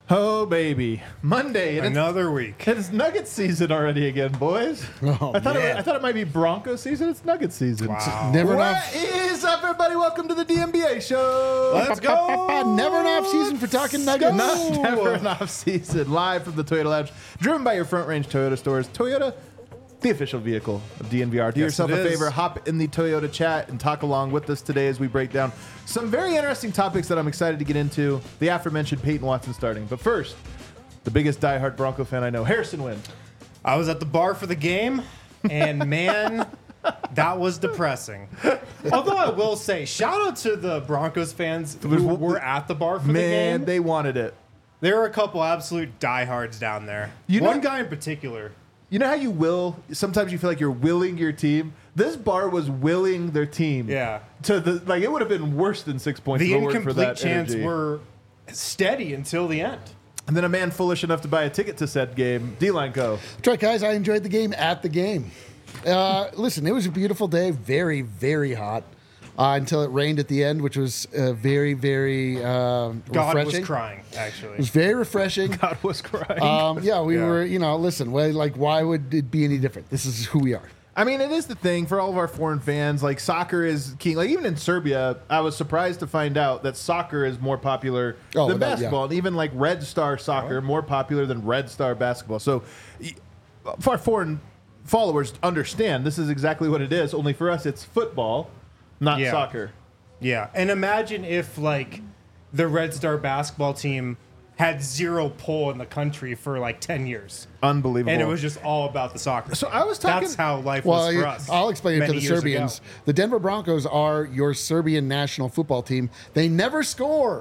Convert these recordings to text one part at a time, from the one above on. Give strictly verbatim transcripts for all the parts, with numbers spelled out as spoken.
Oh, baby. Monday. And Another it's, week. It's Nugget season already again, boys. Oh, I thought man. it, I thought it might be Bronco season. It's Nugget season. Wow. Never What enough. is up, everybody? Welcome to the D M B A show. Let's go. Never enough season for talking Nuggets. Not never enough season. Live from the Toyota Lounge, driven by your Front Range Toyota stores. Toyota, the official vehicle of D N V R. Do Yes, yourself it a is. favor, hop in the Toyota chat and talk along with us today as we break down some very interesting topics that I'm excited to get into. The aforementioned Peyton Watson starting. But first, the biggest diehard Bronco fan I know, Harrison Wynn. I was at the bar for the game, and man, that was depressing. Although I will say, shout out to the Broncos fans who were at the bar for Man, the game. they wanted it. There were a couple absolute diehards down there. You know- One guy in particular. You know how you will, sometimes you feel like you're willing your team? This bar was willing their team. Yeah. To the, like, it would have been worse than six points The if it weren't for incomplete that chants energy. were steady until the end. And then a man foolish enough to buy a ticket to said game, D-Line Co. That's right, guys. I enjoyed the game at the game. Uh, listen, it was a beautiful day. Very, very hot uh, until it rained at the end, which was uh, very, very uh, God refreshing. was crying, actually. It was very refreshing. God was crying. Um, yeah, we Yeah. were, you know, listen, well, like, why would it be any different? This is who we are. I mean, it is the thing for all of our foreign fans. Like, soccer is king. Like, even in Serbia, I was surprised to find out that soccer is more popular Oh, than without- basketball. yeah. And even, like, Red Star soccer, more popular than Red Star basketball. So, y- for our foreign followers, understand this is exactly what it is. Only for us, it's football, not Yeah. soccer. Yeah, and imagine if, like, the Red Star basketball team had zero pull in the country for, like, ten years. Unbelievable. And it was just all about the soccer. So team. I was talking- That's how life Well, was for us. I'll explain it to many the years Serbians. ago. The Denver Broncos are your Serbian national football team. They never score.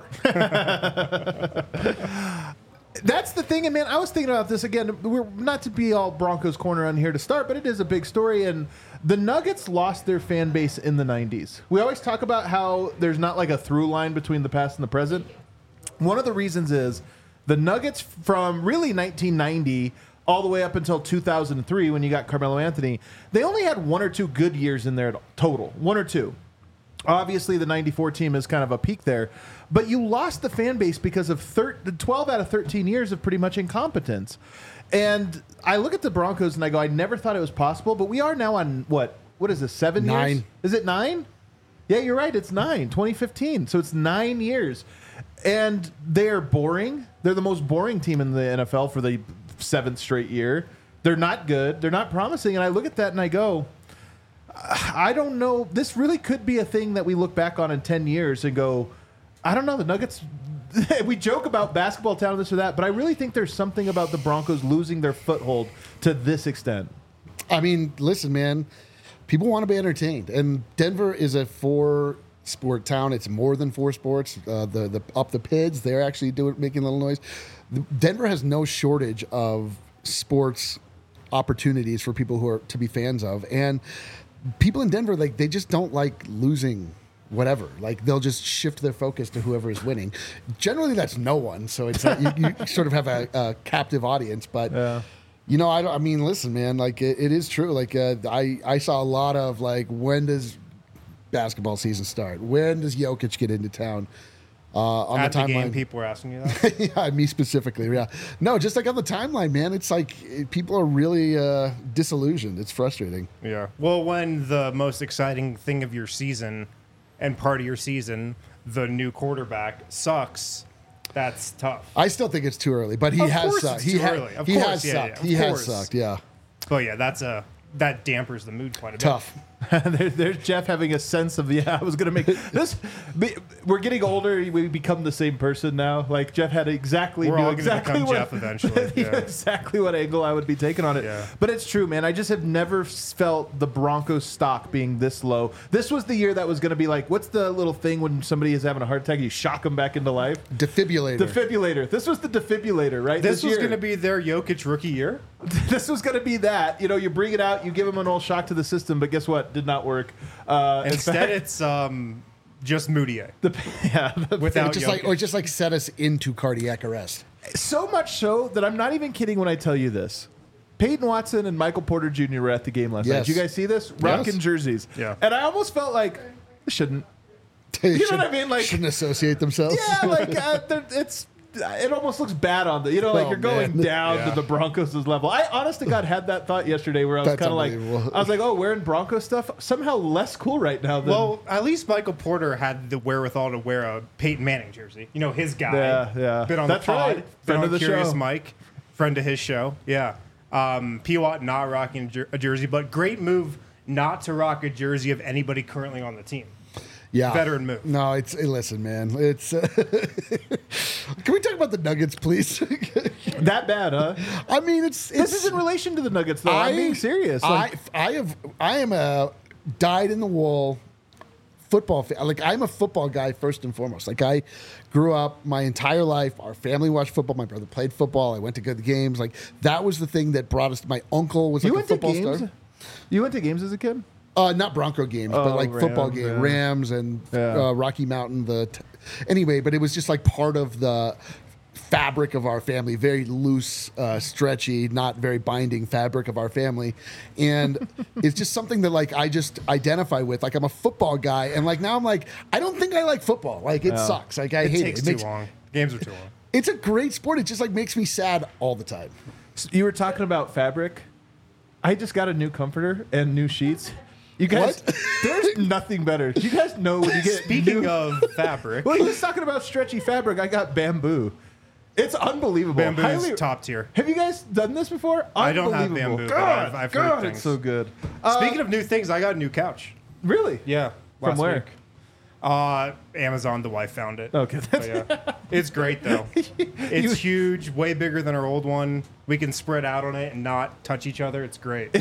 That's the thing, and man, I was thinking about this again. We're not to be all Broncos corner on here to start, but it is a big story. And the Nuggets lost their fan base in the nineties. We always talk about how there's not like a through line between the past and the present. One of the reasons is the Nuggets from really nineteen ninety all the way up until two thousand three when you got Carmelo Anthony, they only had one or two good years in there total, one or two. Obviously, the ninety-four team is kind of a peak there. But you lost the fan base because of thir- twelve out of thirteen years of pretty much incompetence. And I look at the Broncos and I go, I never thought it was possible. But we are now on, what? What is this, seven years? Nine. Is it nine? Yeah, you're right. It's nine, twenty fifteen. So it's nine years. And they're boring. They're the most boring team in the N F L for the seventh straight year. They're not good. They're not promising. And I look at that and I go, I don't know. This really could be a thing that we look back on in ten years and go, I don't know. The Nuggets, we joke about basketball talent, this or that, but I really think there's something about the Broncos losing their foothold to this extent. I mean, listen, man, people want to be entertained, and Denver is a four-sport town. It's more than four sports. Uh, the the up the Pids, they're actually doing making a little noise. Denver has no shortage of sports opportunities for people who are to be fans of, and people in Denver, like, they just don't like losing. Whatever, like, they'll just shift their focus to whoever is winning. Generally, that's no one, so it's uh, you, you sort of have a, a captive audience, but. Yeah. You know, I, don't, I mean, listen, man. Like, it, it is true. Like, uh, I, I saw a lot of like, when does basketball season start? When does Jokic get into town? Uh, on At the the timeline, game, people were asking you that. yeah, me specifically. Yeah, no, just like on the timeline, man. It's like it, people are really uh, disillusioned. It's frustrating. Yeah. Well, when the most exciting thing of your season and part of your season, the new quarterback, sucks, that's tough. I still think it's too early, but he Of has course sucked. it's He, too ha- early. Of he course, has yeah, sucked. yeah, of he has course. sucked. Yeah, But yeah, that's a that dampers the mood quite a bit. tough. there, there's Jeff having a sense of, yeah, I was going to make this. be- We're getting older. We become the same person now. Like, Jeff had exactly We're knew all gonna exactly become what, Jeff eventually, he knew yeah. exactly what angle I would be taking on it. Yeah. But it's true, man. I just have never felt the Broncos stock being this low. This was the year that was going to be like, what's the little thing when somebody is having a heart attack, you shock them back into life? Defibrillator. Defibrillator. This was the defibrillator, right? This, was year. going to be their Jokic rookie year. This was going to be that. You know, you bring it out, you give them an old shock to the system, but guess what? Did not work. Uh, in Instead, fact, it's um, just Moutier. the, yeah, the, Without just like, Jokic. or just like set us into cardiac arrest. so much so that I'm not even kidding when I tell you this. Peyton Watson and Michael Porter Junior were at the game last night. Yes. Did you guys see this? Rocking jerseys. Yeah. And I almost felt like, I shouldn't. They You know what I shouldn't- mean? Like- shouldn't associate themselves. Yeah, like, uh, they're- it's it almost looks bad on the, you know, like Oh, you're going man. down Yeah. to the Broncos' level. I honest to God had that thought yesterday where I was That's kind of like, unbelievable. I was like, oh, wearing Broncos stuff somehow less cool right now than. Well, at least Michael Porter had the wherewithal to wear a Peyton Manning jersey. You know, his guy. Yeah, yeah. Been on That's the pod. right. Been Friend on of the Curious show. Mike. Friend of his show. Yeah. Um, P. Watt not rocking a jer- a jersey, but great move not to rock a jersey of anybody currently on the team. Yeah, Veteran move. No, it's hey, listen, man. It's. Uh, can we talk about the Nuggets, please? that bad, huh? I mean, it's. it's This is in relation to the Nuggets, though. I, am being serious. Like, I, I have. I am a dyed in the wool football fan. Like I'm a football guy first and foremost. Like I grew up my entire life. Our family watched football. My brother played football. I went to go to the games. Like that was the thing that brought us. My uncle was you like went a to football games? star. You went to games as a kid? Uh, not Bronco games, Oh, but like football Rams, game, yeah. Rams and Yeah. uh, Rocky Mountain. The t- anyway, but it was just like part of the fabric of our family, very loose, uh, stretchy, not very binding fabric of our family, and it's just something that like I just identify with. Like I'm a football guy, and like now I'm like I don't think I like football. Like it sucks. Like I It hate takes it. It too makes, long. Games are too long. it's a great sport. It just like makes me sad all the time. You were talking about fabric. I just got a new comforter and new sheets. You guys, What? there's nothing better. You guys know when you get Speaking new, of fabric, well, he was talking about stretchy fabric. I got bamboo. It's unbelievable. bamboo is Highly- top tier. Have you guys done this before? I don't have Unbelievable. bamboo, but God, I've- I've heard God, things. it's so good. Uh, Speaking of new things, I got a new couch. really? Yeah. From last where? week. Uh, Amazon. The wife found it. Okay, But yeah, it's great though. It's huge, way bigger than our old one. We can spread out on it and not touch each other. It's great.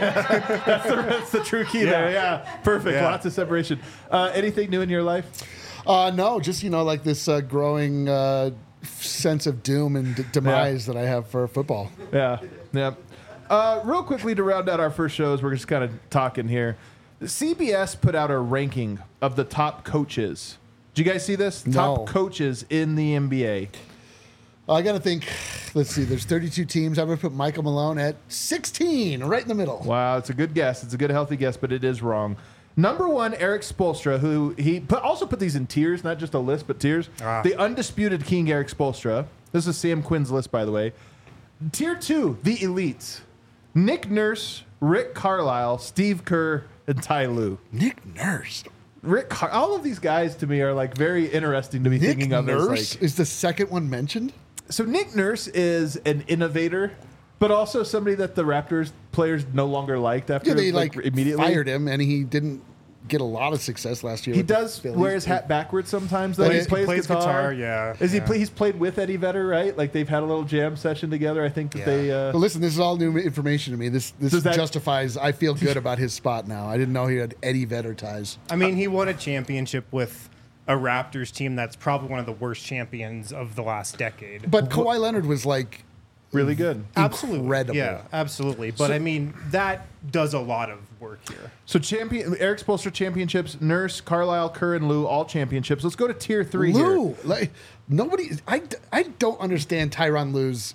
That's the true key there. Yeah, perfect. Yeah. Lots of separation. Uh, anything new in your life? Uh, no, just you know, like this uh, growing uh, sense of doom and d- demise that I have for football. Yeah, yeah. Uh, real quickly to round out our first shows, we're just kind of talking here. C B S put out a ranking of the top coaches. Did you guys see this? No. Top coaches in the N B A. I got to think. Let's see. There's thirty-two teams. I'm going to put Michael Malone at sixteen, right in the middle. Wow, it's a good guess. It's a good, healthy guess, but it is wrong. Number one, Eric Spoelstra, who he put, also put these in tiers, not just a list, but tiers. Ah. The undisputed king, Eric Spoelstra. This is Sam Quinn's list, by the way. Tier two, the elites. Nick Nurse, Rick Carlisle, Steve Kerr, and Ty Lue. Nick Nurse. Rick, Car- all of these guys to me are like very interesting to be Nick thinking of. Nurse As like, is the second one mentioned. so Nick Nurse is an innovator, but also somebody that the Raptors players no longer liked after Yeah, they like, immediately fired him, and he didn't get a lot of success last year. He with the does Phillies. wear his hat backwards sometimes. Though Plays- he plays, plays guitar. guitar, yeah, Is he? yeah. Play, he's played with Eddie Vedder, right? Like they've had a little jam session together. I think that Yeah. they. Uh, But listen, this is all new information to me. This this Does that- justifies. I feel good about his spot now. I didn't know he had Eddie Vedder ties. I mean, he won a championship with a Raptors team that's probably one of the worst champions of the last decade. But Kawhi Leonard was like really good. Absolutely. incredible. Yeah, absolutely. But I mean, that does a lot of work here. So champion Eric Spoelstra championships, Nurse, Carlisle, Kerr, and Lou all championships. Let's go to tier three here. Lou. Like nobody. I, I don't understand Tyronn Lue's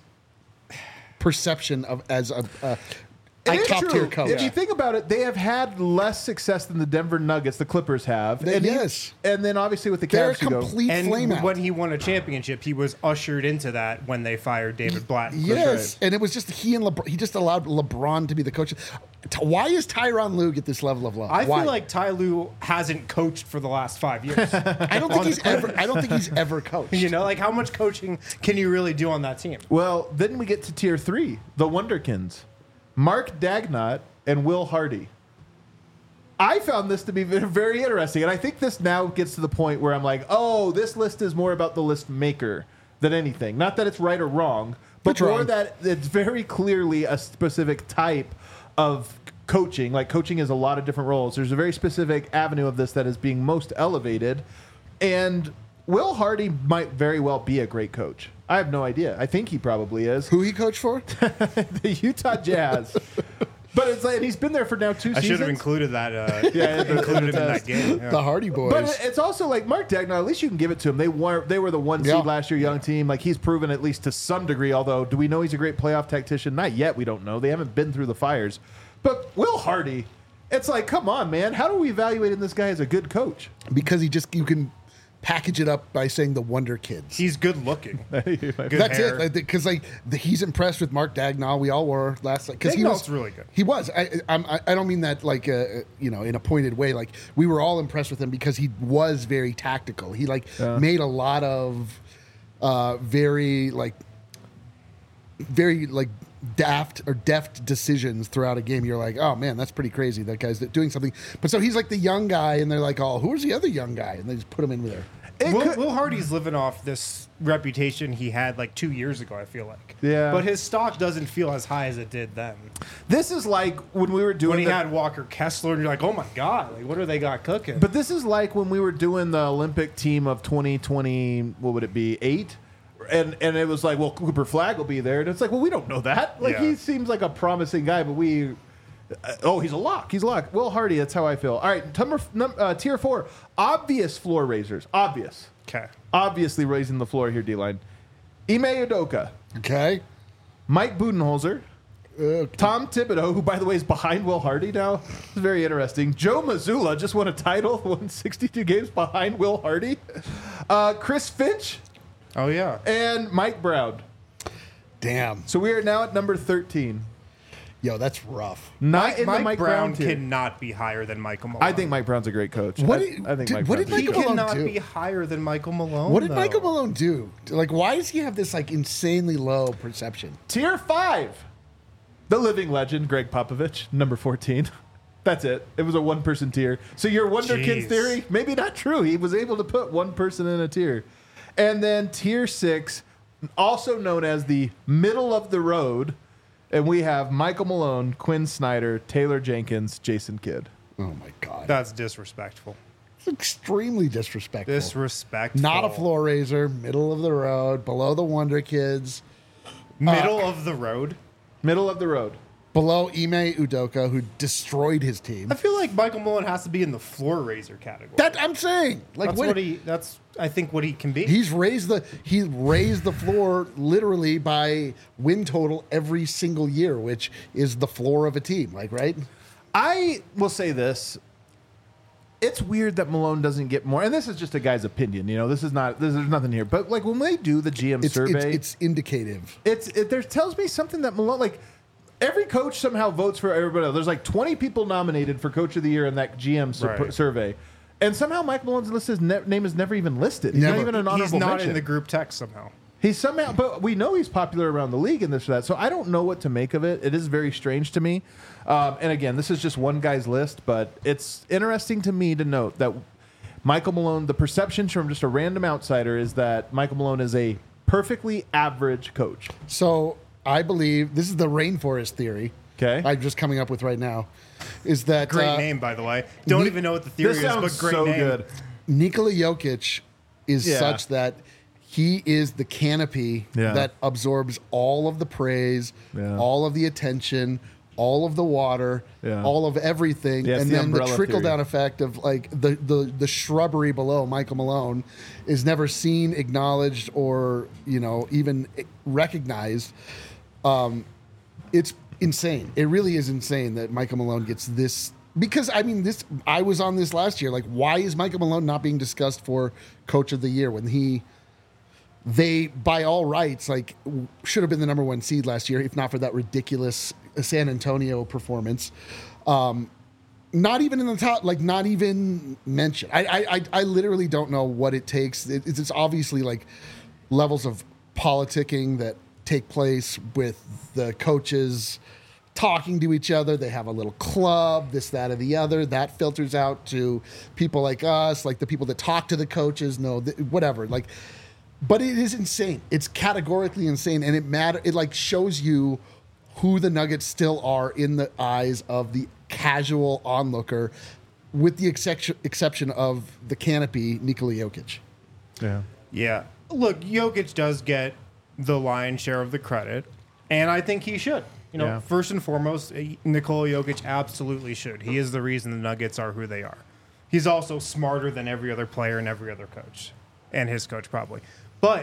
perception of as a, a, It a is top true. tier coach. If you think about it, they have had less success than the Denver Nuggets, the Clippers have. They- and he- yes. and then obviously with the They're a Cavs, you go. complete flame And out. when he won a championship, he was ushered into that when they fired David Blatt. Yes, and it was just he and LeBron. He just allowed LeBron to be the coach. T- Why is Tyronn Lue get this level of love? I Why? feel like Ty Lue hasn't coached for the last five years. I don't think he's ever. I don't think he's ever coached. You know, like how much coaching can you really do on that team? Well, then we get to tier three, the Wonderkins, Mark Dagnott and Will Hardy. I found this to be ve- very interesting, and I think this now gets to the point where I'm like, oh, this list is more about the list maker than anything. Not that it's right or wrong, but It's more wrong. that it's very clearly a specific type of coaching. Like coaching is a lot of different roles. There's a very specific avenue of this that is being most elevated, and Will Hardy might very well be a great coach. I have no idea. I think he probably is. Who he coached for? The Utah Jazz. But it's like, and he's been there for now two I seasons. should have included that. Uh, Yeah, included him in that game. Yeah. The Hardy Boys. But it's also like Mark Dagnall. At least you can give it to him. They were they were the one seed Yeah. last year, young team. Like he's proven at least to some degree. Although, do we know he's a great playoff tactician? Not yet. We don't know. They haven't been through the fires. But Will Hardy, it's like, come on, man. How do we evaluate this guy as a good coach? because he just you can package it up by saying the Wonder Kids. He's good looking. Good That's hair. it, because like the, he's impressed with Mark Dagnall. We all were last because he was Dagnall's really good. He was. I, I'm, I I don't mean that like uh, you know in a pointed way. Like we were all impressed with him because he was very tactical. He like Yeah. made a lot of uh, very like very like daft or deft decisions throughout a game. You're like, oh man, that's pretty crazy. That guy's doing something. But so he's like the young guy, and they're like, oh, who's the other young guy? And they just put him in there. It Will, could- Will Hardy's living off this reputation he had like two years ago, I feel like. Yeah. But his stock doesn't feel as high as it did then. This is like when we were doing When he the- had Walker Kessler, and you're like, oh my God, like what do they got cooking? But this is like when we were doing the Olympic team of twenty twenty, what would it be, eight? And and it was like, well, Cooper Flagg will be there. And it's like, well, we don't know that. Like, Yeah. he seems like a promising guy, but we... Uh, oh, he's a lock. He's a lock. Will Hardy, that's how I feel. All right, number, num, uh, tier four, obvious floor raisers. Obvious. Okay. Obviously raising the floor here, D-line. Ime Udoka, Okay. Mike Budenholzer, Uh, Tom Thibodeau, who, by the way, is behind Will Hardy now. It's very interesting. Joe Mazzulla just won a title, won sixty-two games behind Will Hardy. Uh, Chris Finch Oh yeah. and Mike Brown. damn. So we are now at number thirteen. Yo, that's rough. Not Mike, in the Mike Mike Brown Brown tier. cannot be higher than Michael Malone. I think Mike Brown's a great coach. What I, did- I think did- Mike what did Brown's a he Michael Malone cannot do? be higher than Michael Malone. What did though. Michael Malone do? Like, why does he have this like insanely low perception? Tier five. The living legend, Greg Popovich, number fourteen. That's it. It was a one-person tier. So your Wonder Kids Jeez. theory, maybe not true. He was able to put one person in a tier. And then tier six, also known as the middle of the road, and we have Michael Malone, Quinn Snyder, Taylor Jenkins, Jason Kidd. Oh my god, That's disrespectful. it's extremely disrespectful. Disrespectful. Not a floor raiser, middle of the road, below the Wonder Kids, Middle of the road. Middle of the road. below Ime Udoka, who destroyed his team. I feel like Michael Malone has to be in the floor raiser category. That I'm saying, like, that's what, what he. That's I think what he can be. he's raised the he raised the floor literally by win total every single year, which is the floor of a team. Like, right? I will say this. It's weird that Malone doesn't get more, and this is just a guy's opinion. You know, this is not. This, there's nothing here, but like when they do the G M It's it's, survey, it's indicative. it's it there tells me something that Malone, like every coach somehow votes for everybody else. There's like twenty people nominated for Coach of the Year in that G M sur- Right. survey, and somehow Mike Malone's list is ne- name is never even listed. He's Never. not even an honorable He's not mention. in the group text somehow. He's somehow, but we know he's popular around the league and this or that. So I don't know what to make of it. It is very strange to me. Um, and again, this is just one guy's list, but it's interesting to me to note that Michael Malone, the perception from just a random outsider is that Michael Malone is a perfectly average coach. So I believe this is the rainforest theory. Okay. I'm just coming up with right now. Is that Great uh, name, by the way. Don't Ni- even know what the theory This is, sounds but great so name. good. Nikola Jokic is Yeah. such that he is the canopy Yeah. that absorbs all of the praise, Yeah. all of the attention, all of the water, Yeah. all of everything, Yeah, it's and the then the umbrella trickle down theory. effect of like the, the the shrubbery below Michael Malone is never seen, acknowledged, or you know even recognized. Um, it's insane. It really is insane that Michael Malone gets this. Because I mean, this I was on this last year. Like, why is Michael Malone not being discussed for Coach of the Year when he, they by all rights, like w- should have been the number one seed last year, if not for that ridiculous San Antonio performance. Um, not even in the top, like not even mentioned. I I I, I literally don't know what it takes. It, it's, it's obviously like levels of politicking that take place with the coaches talking to each other. They have a little club, this, that, or the other. That filters out to people like us, like the people that talk to the coaches, know th- whatever. Like, but it is insane. It's categorically insane, and it matter. It like shows you who the Nuggets still are in the eyes of the casual onlooker, with the exception exception of the canopy, Nikola Jokic. Yeah. Yeah. Look, Jokic does get the lion's share of the credit, and I think he should. You know, Yeah. first and foremost, eh, Nikola Jokic absolutely should. He is the reason the Nuggets are who they are. He's also smarter than every other player and every other coach, and his coach probably. But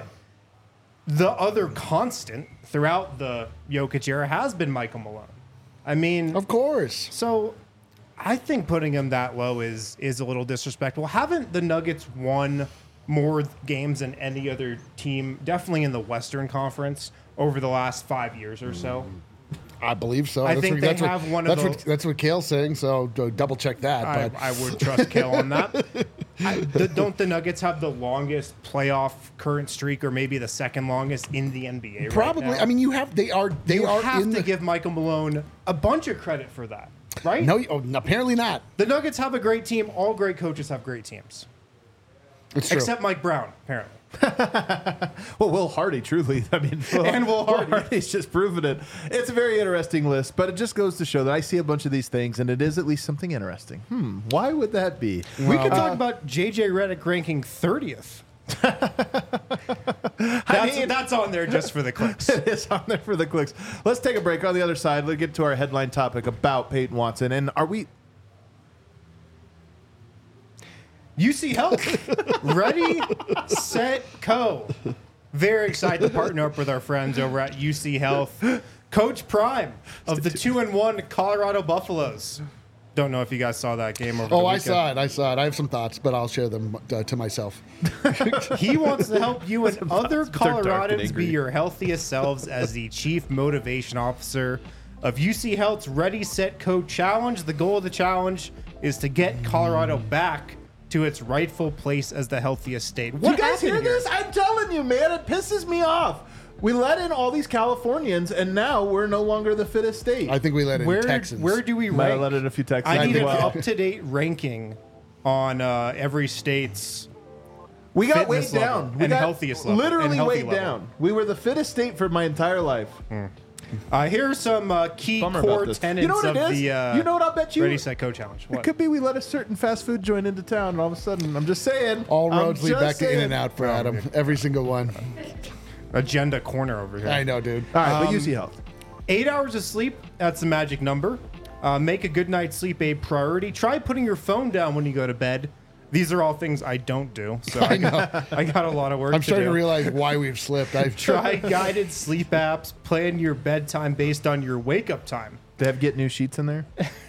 the other constant throughout the Jokic era has been Michael Malone. I mean, Of course. so I think putting him that low is is a little disrespectful. Haven't the Nuggets won more games than any other team, definitely in the Western Conference, over the last five years or so. I believe so. I that's think what, they that's have what, one of that's those- What, that's what Kale's saying, so do- double check that. I, But I would trust Kale on that. I, the, don't the Nuggets have the longest playoff current streak, or maybe the second longest in the N B A? probably. Right now? I mean, you have. They are. They you are have in to the. give Michael Malone a bunch of credit for that, right? no, oh, apparently not. The Nuggets have a great team. All great coaches have great teams, It's true. except Mike Brown, apparently. Well, Will Hardy, truly. I mean, Will, And Will Hardy. Hardy's just proven it. It's a very interesting list, but it just goes to show that I see a bunch of these things, and it is at least something interesting. Hmm, why would that be? We could talk about J J Redick ranking thirtieth. That's, mean- that's on there just for the clicks. It is on there for the clicks. Let's take a break. On the other side, let's get to our headline topic about Peyton Watson. And are we... U C Health, ready, set, go. Very excited to partner up with our friends over at U C Health. Coach Prime of the two and one Colorado Buffaloes. Don't know if you guys saw that game over the Oh, I weekend. saw it. I saw it. I have some thoughts, but I'll share them uh, to myself. He wants to help you and other thoughts, but they're dark and Coloradans angry. be your healthiest selves as the Chief Motivation Officer of U C Health's Ready, Set, Code Challenge. The goal of the challenge is to get Colorado back to its rightful place as the healthiest state. What you guys hear happened here? this? I'm telling you, man, it pisses me off. We let in all these Californians, and now we're no longer the fittest state. I think we let in Where, Texans. where do we Might have rank? let in a few Texans I need as an well. up-to-date ranking on uh, every state's. We got way fitness level down. We and got healthiest level literally and healthy way level. down. We were the fittest state for my entire life. Uh, here are some uh, key Bummer about core this. tenets You know what of it is? the uh, You know what I'll bet you? Ready, Set, Go challenge. It What? could be we let a certain fast food joint into town, and all of a sudden, I'm just saying. All I'm roads lead just back to saying. In and Out for Adam. Every single one. Agenda corner over here. I know, dude. All right, but Um, U C Health. Eight hours of sleep, that's the magic number. Uh, make a good night's sleep a priority. Try putting your phone down when you go to bed. These are all things I don't do, so I, got, I got a lot of work I'm to starting do. to realize why we've slipped. I've Try guided sleep apps. Plan your bedtime based on your wake-up time. They have get new sheets in there.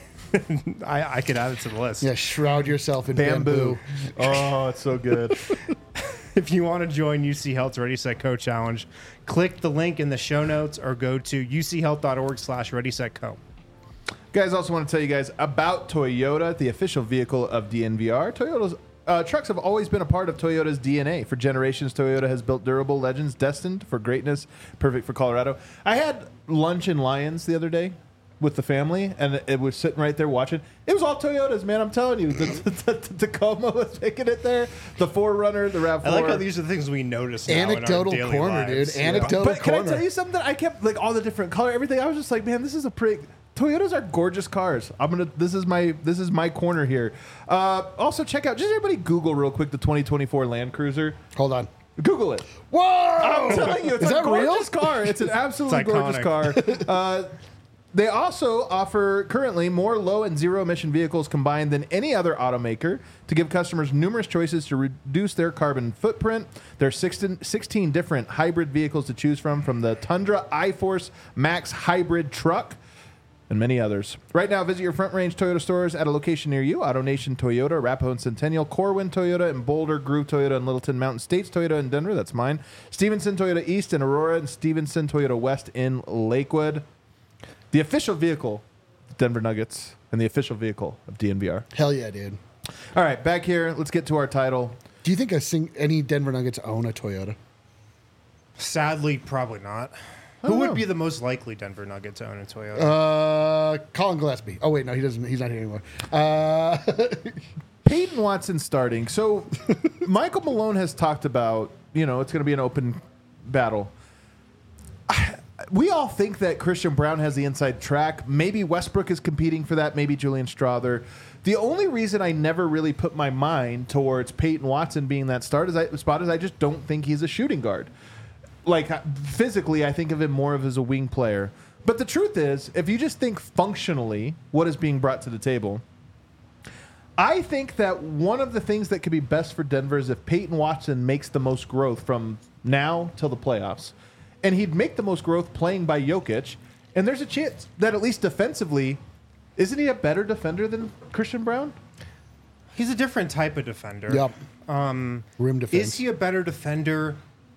I, I could add it to the list. Yeah, shroud yourself in bamboo. Oh, it's so good. If you want to join U C Health's Ready, Set, Co challenge, click the link in the show notes or go to uchealth.org slash Ready, Set, Co. Guys, also want to tell you guys about Toyota, the official vehicle of D N V R. Toyota's uh, trucks have always been a part of Toyota's D N A. For generations, Toyota has built durable legends destined for greatness, perfect for Colorado. I had lunch in Lyons the other day with the family, and it was sitting right there watching. It was all Toyotas, man. I'm telling you. The, the, the Tacoma was making it there. The four runner, the RAV four. I like how these are the things we notice now Anecdotal in our daily corner, lives. dude. Anecdotal But can I corner. tell you something? I kept like all the different color, everything. I was just like, man, this is a pretty. Toyotas are gorgeous cars. I'm gonna. This is my. This is my corner here. Uh, also, check out. Just everybody Google real quick the twenty twenty-four Land Cruiser. Hold on. Google it. Whoa! I'm telling you, it's Is a that real? gorgeous car. It's an absolutely It's gorgeous car. iconic. Uh, they also offer currently more low and zero emission vehicles combined than any other automaker to give customers numerous choices to reduce their carbon footprint. There are sixteen, sixteen different hybrid vehicles to choose from, from the Tundra iForce Max hybrid truck and many others. Right now, visit your Front Range Toyota stores at a location near you. AutoNation Toyota, Arapahoe and Centennial, Corwin Toyota and Boulder, Groove Toyota and Littleton, Mountain States Toyota in Denver, that's mine. Stevenson Toyota East in Aurora, and Stevenson Toyota West in Lakewood. The official vehicle of Denver Nuggets and the official vehicle of D N V R. Hell yeah, dude. All right, back here. Let's get to our title. Do you think a sing- any Denver Nuggets own a Toyota? Sadly, probably not. don't Who would know. be the most likely Denver Nugget to own a Toyota? Uh, Colin Gillespie. Oh wait, no, he doesn't. He's not here anymore. Uh, Peyton Watson starting. So Michael Malone has talked about, you know, it's going to be an open battle. We all think that Christian Brown has the inside track. Maybe Westbrook is competing for that. Maybe Julian Strother. The only reason I never really put my mind towards Peyton Watson being that start is I, spot is I just don't think he's a shooting guard. Like physically, I think of him more of as a wing player. But the truth is, if you just think functionally, what is being brought to the table, I think that one of the things that could be best for Denver is if Peyton Watson makes the most growth from now till the playoffs. And he'd make the most growth playing by Jokic. And there's a chance that at least defensively, isn't he a better defender than Christian Brown? He's a different type of defender. Yep. Um, Rim defense. Is he a better defender?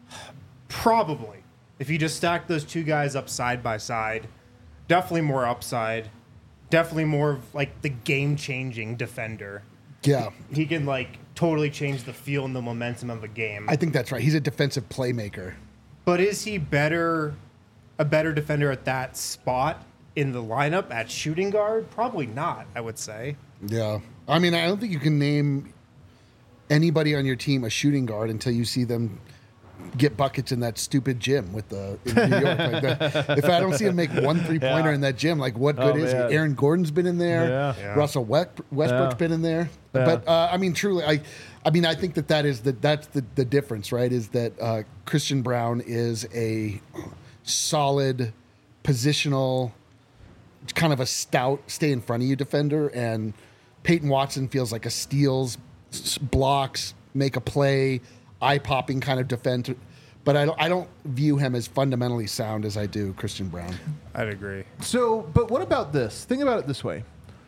Probably. If you just stack those two guys up side by side, definitely more upside. Definitely more of like the game-changing defender. Yeah. He can like totally change the feel and the momentum of a game. I think that's right. He's a defensive playmaker. But is he better, a better defender at that spot in the lineup at shooting guard? Probably not, I would say. Yeah. I mean, I don't think you can name anybody on your team a shooting guard until you see them get buckets in that stupid gym with the in New York. Like the, if I don't see him make one three pointer Yeah. in that gym, like what good Oh, is man. he? Aaron Gordon's been in there. Yeah. Yeah. Russell West, Westbrook's Yeah. been in there. Yeah. But uh, I mean, truly, I, I mean, I think that that is the that's the the difference, right? Is that uh, Christian Braun is a solid positional, kind of a stout, stay in front of you defender, and Peyton Watson feels like a steals, s- blocks, make a play, eye popping kind of defender. But I don't I don't view him as fundamentally sound as I do Christian Braun. I'd agree. So, but what about this? Think about it this way: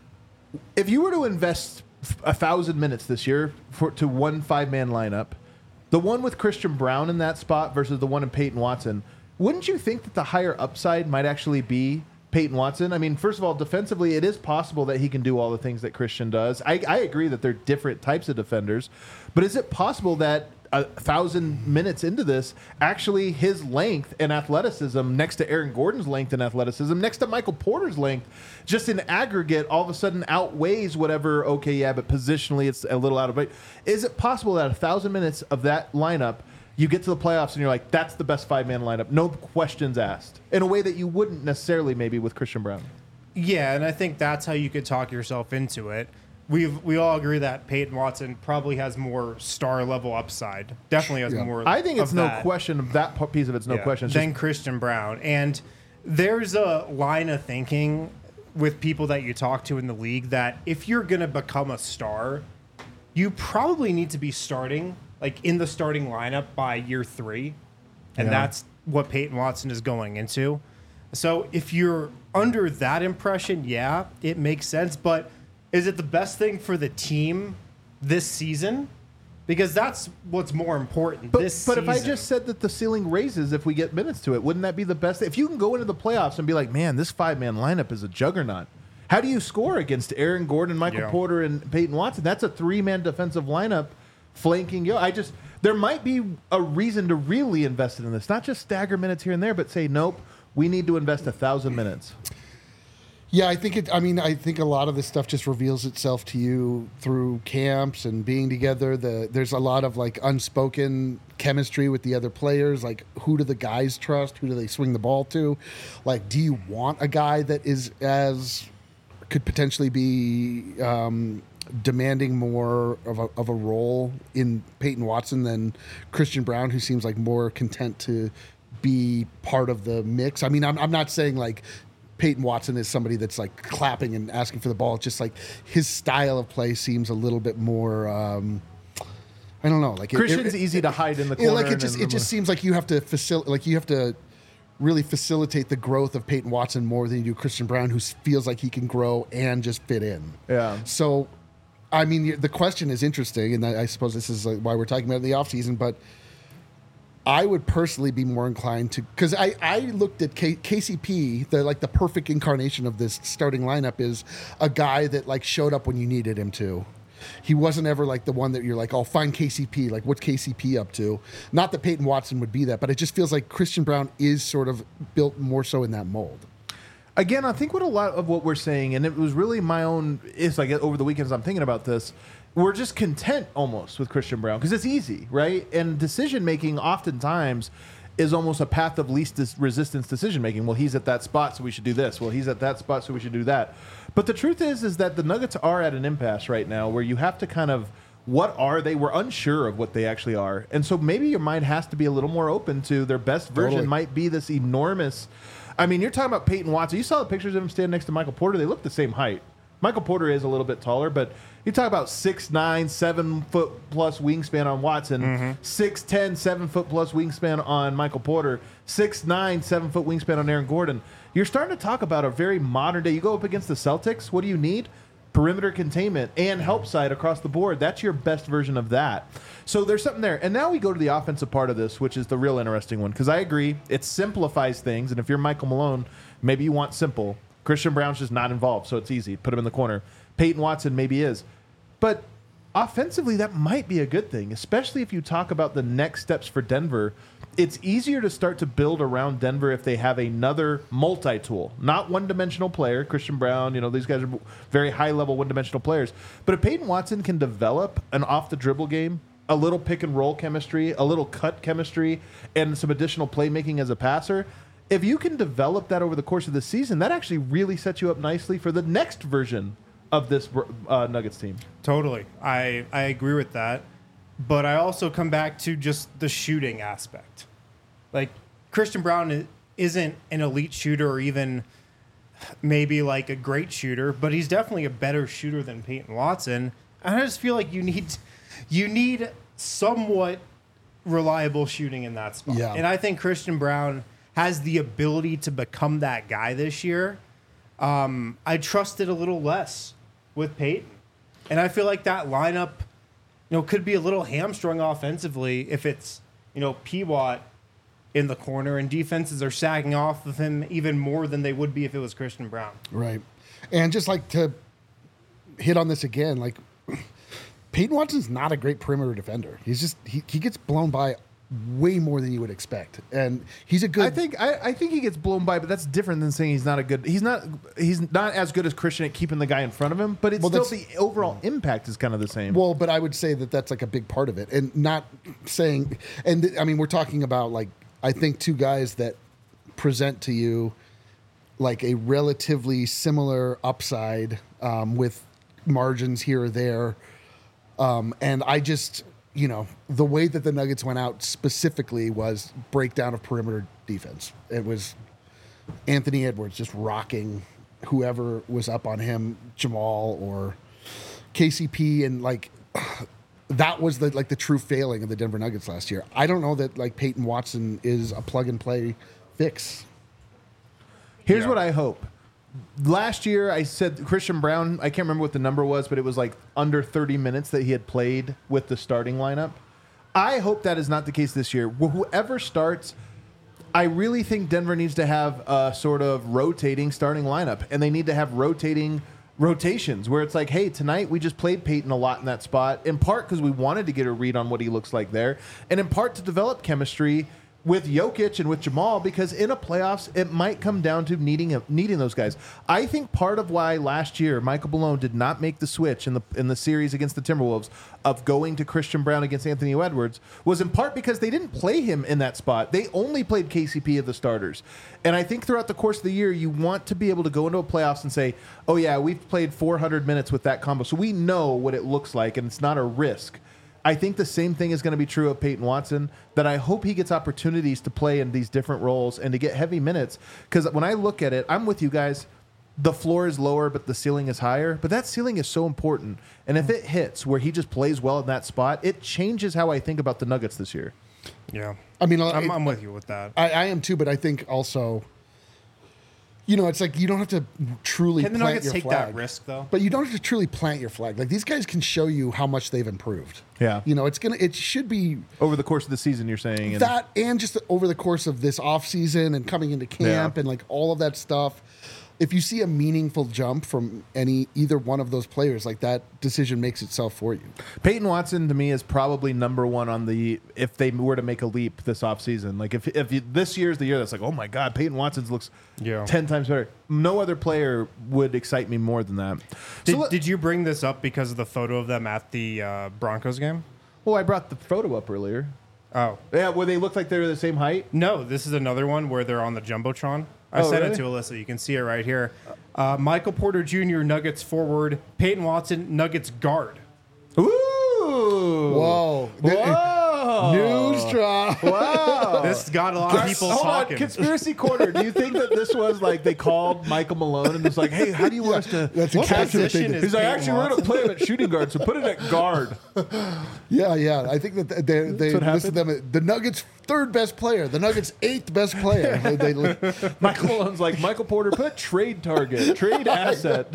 if you were to invest f- a thousand minutes this year for to one five-man lineup, the one with Christian Braun in that spot versus the one in Peyton Watson, wouldn't you think that the higher upside might actually be Peyton Watson? I mean, first of all, defensively, it is possible that he can do all the things that Christian does. I, I agree that they're different types of defenders, but is it possible that a thousand minutes into this, actually his length and athleticism next to Aaron Gordon's length and athleticism, next to Michael Porter's length, just in aggregate, all of a sudden outweighs whatever, okay, yeah, but positionally it's a little out of it. Is it possible that a thousand minutes of that lineup, you get to the playoffs and you're like, that's the best five-man lineup, no questions asked, in a way that you wouldn't necessarily maybe with Christian Braun? Yeah, and I think that's how you could talk yourself into it. We've we all agree that Peyton Watson probably has more star level upside. Definitely has Yeah. more. I think it's of no that. question of that p- piece of it's no Yeah, question. It's than just, Christian Braun. And there's a line of thinking with people that you talk to in the league that if you're going to become a star, you probably need to be starting, like in the starting lineup by year three. And Yeah. that's what Peyton Watson is going into. So if you're under that impression, yeah, it makes sense. But is it the best thing for the team this season? Because that's what's more important But, this but season. if I just said that the ceiling raises if we get minutes to it, wouldn't that be the best? If you can go into the playoffs and be like, man, this five-man lineup is a juggernaut. How do you score against Aaron Gordon, Michael Yeah. Porter, and Peyton Watson? That's a three-man defensive lineup flanking. Yo, I just there might be a reason to really invest in this, not just stagger minutes here and there, but say, nope, we need to invest a thousand minutes. Yeah, I think it. I mean, I think a lot of this stuff just reveals itself to you through camps and being together. The there's a lot of like unspoken chemistry with the other players. Like, who do the guys trust? Who do they swing the ball to? Like, do you want a guy that is as could potentially be um, demanding more of a, of a role in Peyton Watson than Christian Braun, who seems like more content to be part of the mix? I mean, I'm I'm not saying like Peyton Watson is somebody that's like clapping and asking for the ball. It's just like his style of play seems a little bit more. Um, I don't know. Like it- Christian's it, easy to hide in the it, corner. like it just and- it just seems like you have to facil- like you have to really facilitate the growth of Peyton Watson more than you do Christian Braun, who feels like he can grow and just fit in. Yeah. So, I mean, the question is interesting, and I I suppose this is like why we're talking about it in the offseason, but I would personally be more inclined to, because I, I looked at K, KCP, the like the perfect incarnation of this starting lineup is a guy that like showed up when you needed him to. He wasn't ever like the one that you're like, oh, find K C P. Like, what's K C P up to? Not that Peyton Watson would be that, but it just feels like Christian Braun is sort of built more so in that mold. Again, I think what a lot of what we're saying, and it was really my own, it's like over the weekends I'm thinking about this, we're just content almost with Christian Braun because it's easy, right? And decision making oftentimes is almost a path of least dis- resistance decision making. Well, he's at that spot, so we should do this. Well, he's at that spot, so we should do that. But the truth is, is that the Nuggets are at an impasse right now where you have to kind of, what are they? We're unsure of what they actually are. And so maybe your mind has to be a little more open to their best version Totally. might be this enormous. I mean, you're talking about Peyton Watson. You saw the pictures of him standing next to Michael Porter. They look the same height. Michael Porter is a little bit taller, but you talk about six nine, seven foot plus wingspan on Watson, six ten, seven foot plus wingspan on Michael Porter, six nine, seven foot wingspan on Aaron Gordon. You're starting to talk about a very modern day. You go up against the Celtics. What do you need? perimeter containment and help side across the board. That's your best version of that. So there's something there. And now we go to the offensive part of this, which is the real interesting one. Because I agree, it simplifies things. And if you're Michael Malone, maybe you want simple. Christian Brown's just not involved, so it's easy. Put him in the corner. Peyton Watson maybe is. But offensively, that might be a good thing, especially if you talk about the next steps for Denver. It's easier to start to build around Denver if they have another multi-tool, not one-dimensional player. Christian Brown, you know, these guys are very high-level one-dimensional players. But if Peyton Watson can develop an off-the-dribble game, a little pick-and-roll chemistry, a little cut chemistry, and some additional playmaking as a passer, if you can develop that over the course of the season, that actually really sets you up nicely for the next version of this uh, Nuggets team. Totally. I, I agree with that. But I also come back to just the shooting aspect. Like, Christian Brown isn't an elite shooter or even maybe like a great shooter, but he's definitely a better shooter than Peyton Watson. And I just feel like you need you need somewhat reliable shooting in that spot. Yeah. And I think Christian Brown has the ability to become that guy this year. Um, I trust it a little less with Peyton. And I feel like that lineup, you know, could be a little hamstrung offensively if it's, you know, P-Watt in the corner and defenses are sagging off of him even more than they would be if it was Christian Brown. Right. And just like to hit on this again, like Peyton Watson's not a great perimeter defender. He's just, he, he gets blown by way more than you would expect. And he's a good... I think I, I think he gets blown by, but that's different than saying he's not a good... He's not he's not as good as Christian at keeping the guy in front of him, but it's Well, still the overall impact is kind of the same. Well, but I would say that that's like a big part of it. And not saying... And th- I mean, we're talking about like, I think two guys that present to you like a relatively similar upside um, with margins here or there. Um, and I just... You know, the way that the Nuggets went out specifically was breakdown of perimeter defense. It was Anthony Edwards just rocking whoever was up on him, Jamal or K C P, and like that was the like the true failing of the Denver Nuggets last year. I don't know that like Peyton Watson is a plug and play fix. Here's Yeah. what I hope. Last year, I said Christian Brown, I can't remember what the number was, but it was like under thirty minutes that he had played with the starting lineup. I hope that is not the case this year. Wh- Whoever starts, I really think Denver needs to have a sort of rotating starting lineup, and they need to have rotating rotations where it's like, hey, tonight we just played Peyton a lot in that spot, in part because we wanted to get a read on what he looks like there, and in part to develop chemistry with Jokic and with Jamal, because in a playoffs, it might come down to needing a, needing those guys. I think part of why last year Michael Malone did not make the switch in the in the series against the Timberwolves of going to Christian Brown against Anthony Edwards was in part because they didn't play him in that spot. They only played K C P of the starters. And I think throughout the course of the year, you want to be able to go into a playoffs and say, oh yeah, we've played four hundred minutes with that combo, so we know what it looks like, and it's not a risk. I think the same thing is going to be true of Peyton Watson, that I hope he gets opportunities to play in these different roles and to get heavy minutes. Because when I look at it, I'm with you guys. The floor is lower, but the ceiling is higher. But that ceiling is so important. And if it hits where he just plays well in that spot, it changes how I think about the Nuggets this year. Yeah. I mean, I'm, it- I'm with you with that. I, I am too, but I think also, you know, it's like you don't have to truly Can the plant Nuggets your take flag. that risk, though? But you don't have to truly plant your flag. Like these guys can show you how much they've improved. Yeah. You know, it's gonna it should be Over the course of the season, you're saying. And that and just over the course of this off season and coming into camp Yeah. and like all of that stuff. If you see a meaningful jump from any either one of those players, like that decision makes itself for you. Peyton Watson, to me, is probably number one on the, if they were to make a leap this offseason. Like, if if you, this year's the year that's like, oh my God, Peyton Watson's looks Yeah. ten times better. No other player would excite me more than that. Did, so, let- did you bring this up because of the photo of them at the uh, Broncos game? well, I brought the photo up earlier. Oh. Yeah, where they look like they were the same height. No, this is another one where they're on the Jumbotron. I Oh, sent really? it to Alyssa. You can see it right here. Uh, Michael Porter Junior, Nuggets forward. Peyton Watson, Nuggets guard. Ooh. Whoa. Whoa. News drop. Wow. This got a lot of people Hold talking. on, conspiracy corner. Do you think that this was like they called Michael Malone and was like, "Hey, how do you want us to?" That's What exactly what they position did. is He's like, Peyton "Actually, we're going to Watson? play him at shooting guard, so put it at guard." Yeah, yeah. I think that they they what listed them. The Nuggets' third best player, the Nuggets' eighth best player. They, they, Michael Malone's like, "Michael Porter, put trade target, trade asset."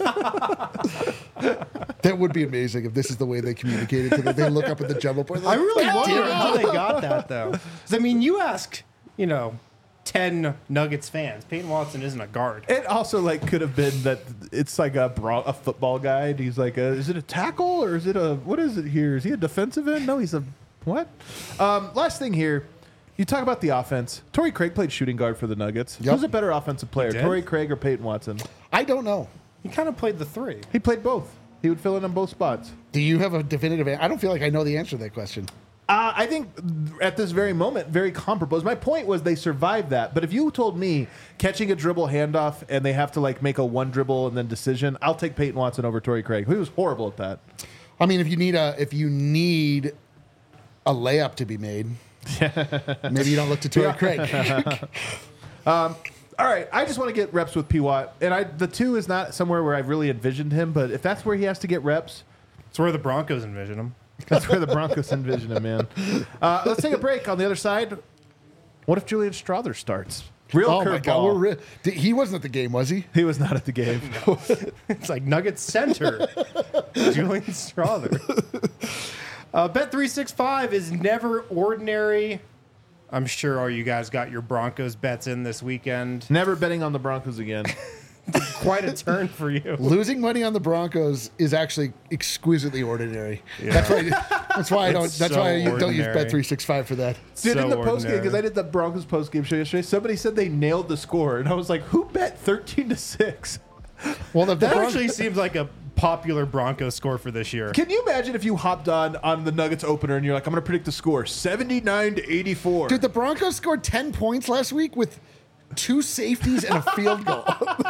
that would be amazing if this is the way they communicated to them. They look up at the jumbo board. I really "God wonder damn it." how they got that, though. 'Cause, I mean, you ask, you know, ten Nuggets fans. Peyton Watson isn't a guard. It also like could have been that it's like a bra- a football guy. And he's like, a, is it a tackle or is it a what is it here? Is he a defensive end? No, he's a what? Um, last thing here, you talk about the offense. Torrey Craig played shooting guard for the Nuggets. Yep. Who's a better offensive player, did? Torrey Craig or Peyton Watson? I don't know. He kind of played the three. He played both. He would fill in on both spots. Do you have a definitive answer? I don't feel like I know the answer to that question. Uh, I think at this very moment, very comparable. My point was they survived that. But if you told me catching a dribble handoff and they have to like make a one dribble and then decision, I'll take Peyton Watson over Torrey Craig. He was horrible at that. I mean, if you need a if you need a layup to be made, maybe you don't look to Torrey Craig. All right, I just want to get reps with P. Watt, and I the two is not somewhere where I've really envisioned him. But if that's where he has to get reps, It's where the Broncos envision him. that's where the Broncos envision him, man. Uh, let's take a break. On the other side, what if Julian Strother starts? Real Oh my God, we're curveball. re- Did- he wasn't at the game, was he? He was not at the game. It's like Nuggets center, Julian Strother. Uh, Bet three sixty-five is never ordinary. I'm sure all you guys got your Broncos bets in this weekend. Never betting on the Broncos again. Quite a turn for you. Losing money on the Broncos is actually exquisitely ordinary. That's why. That's why I don't. It's That's so why you don't use ordinary. Bet three sixty-five for that. Dude, So in the post game, ordinary. because I did the Broncos post game show yesterday, somebody said they nailed the score, and I was like, "Who bet thirteen to six?" Well, the, the That Bron- actually seems like a popular Broncos score for this year. Can you imagine if you hopped on on the Nuggets opener and you're like, "I'm going to predict the score seventy-nine to eighty-four." dude, the Broncos scored ten points last week with two safeties and a field goal.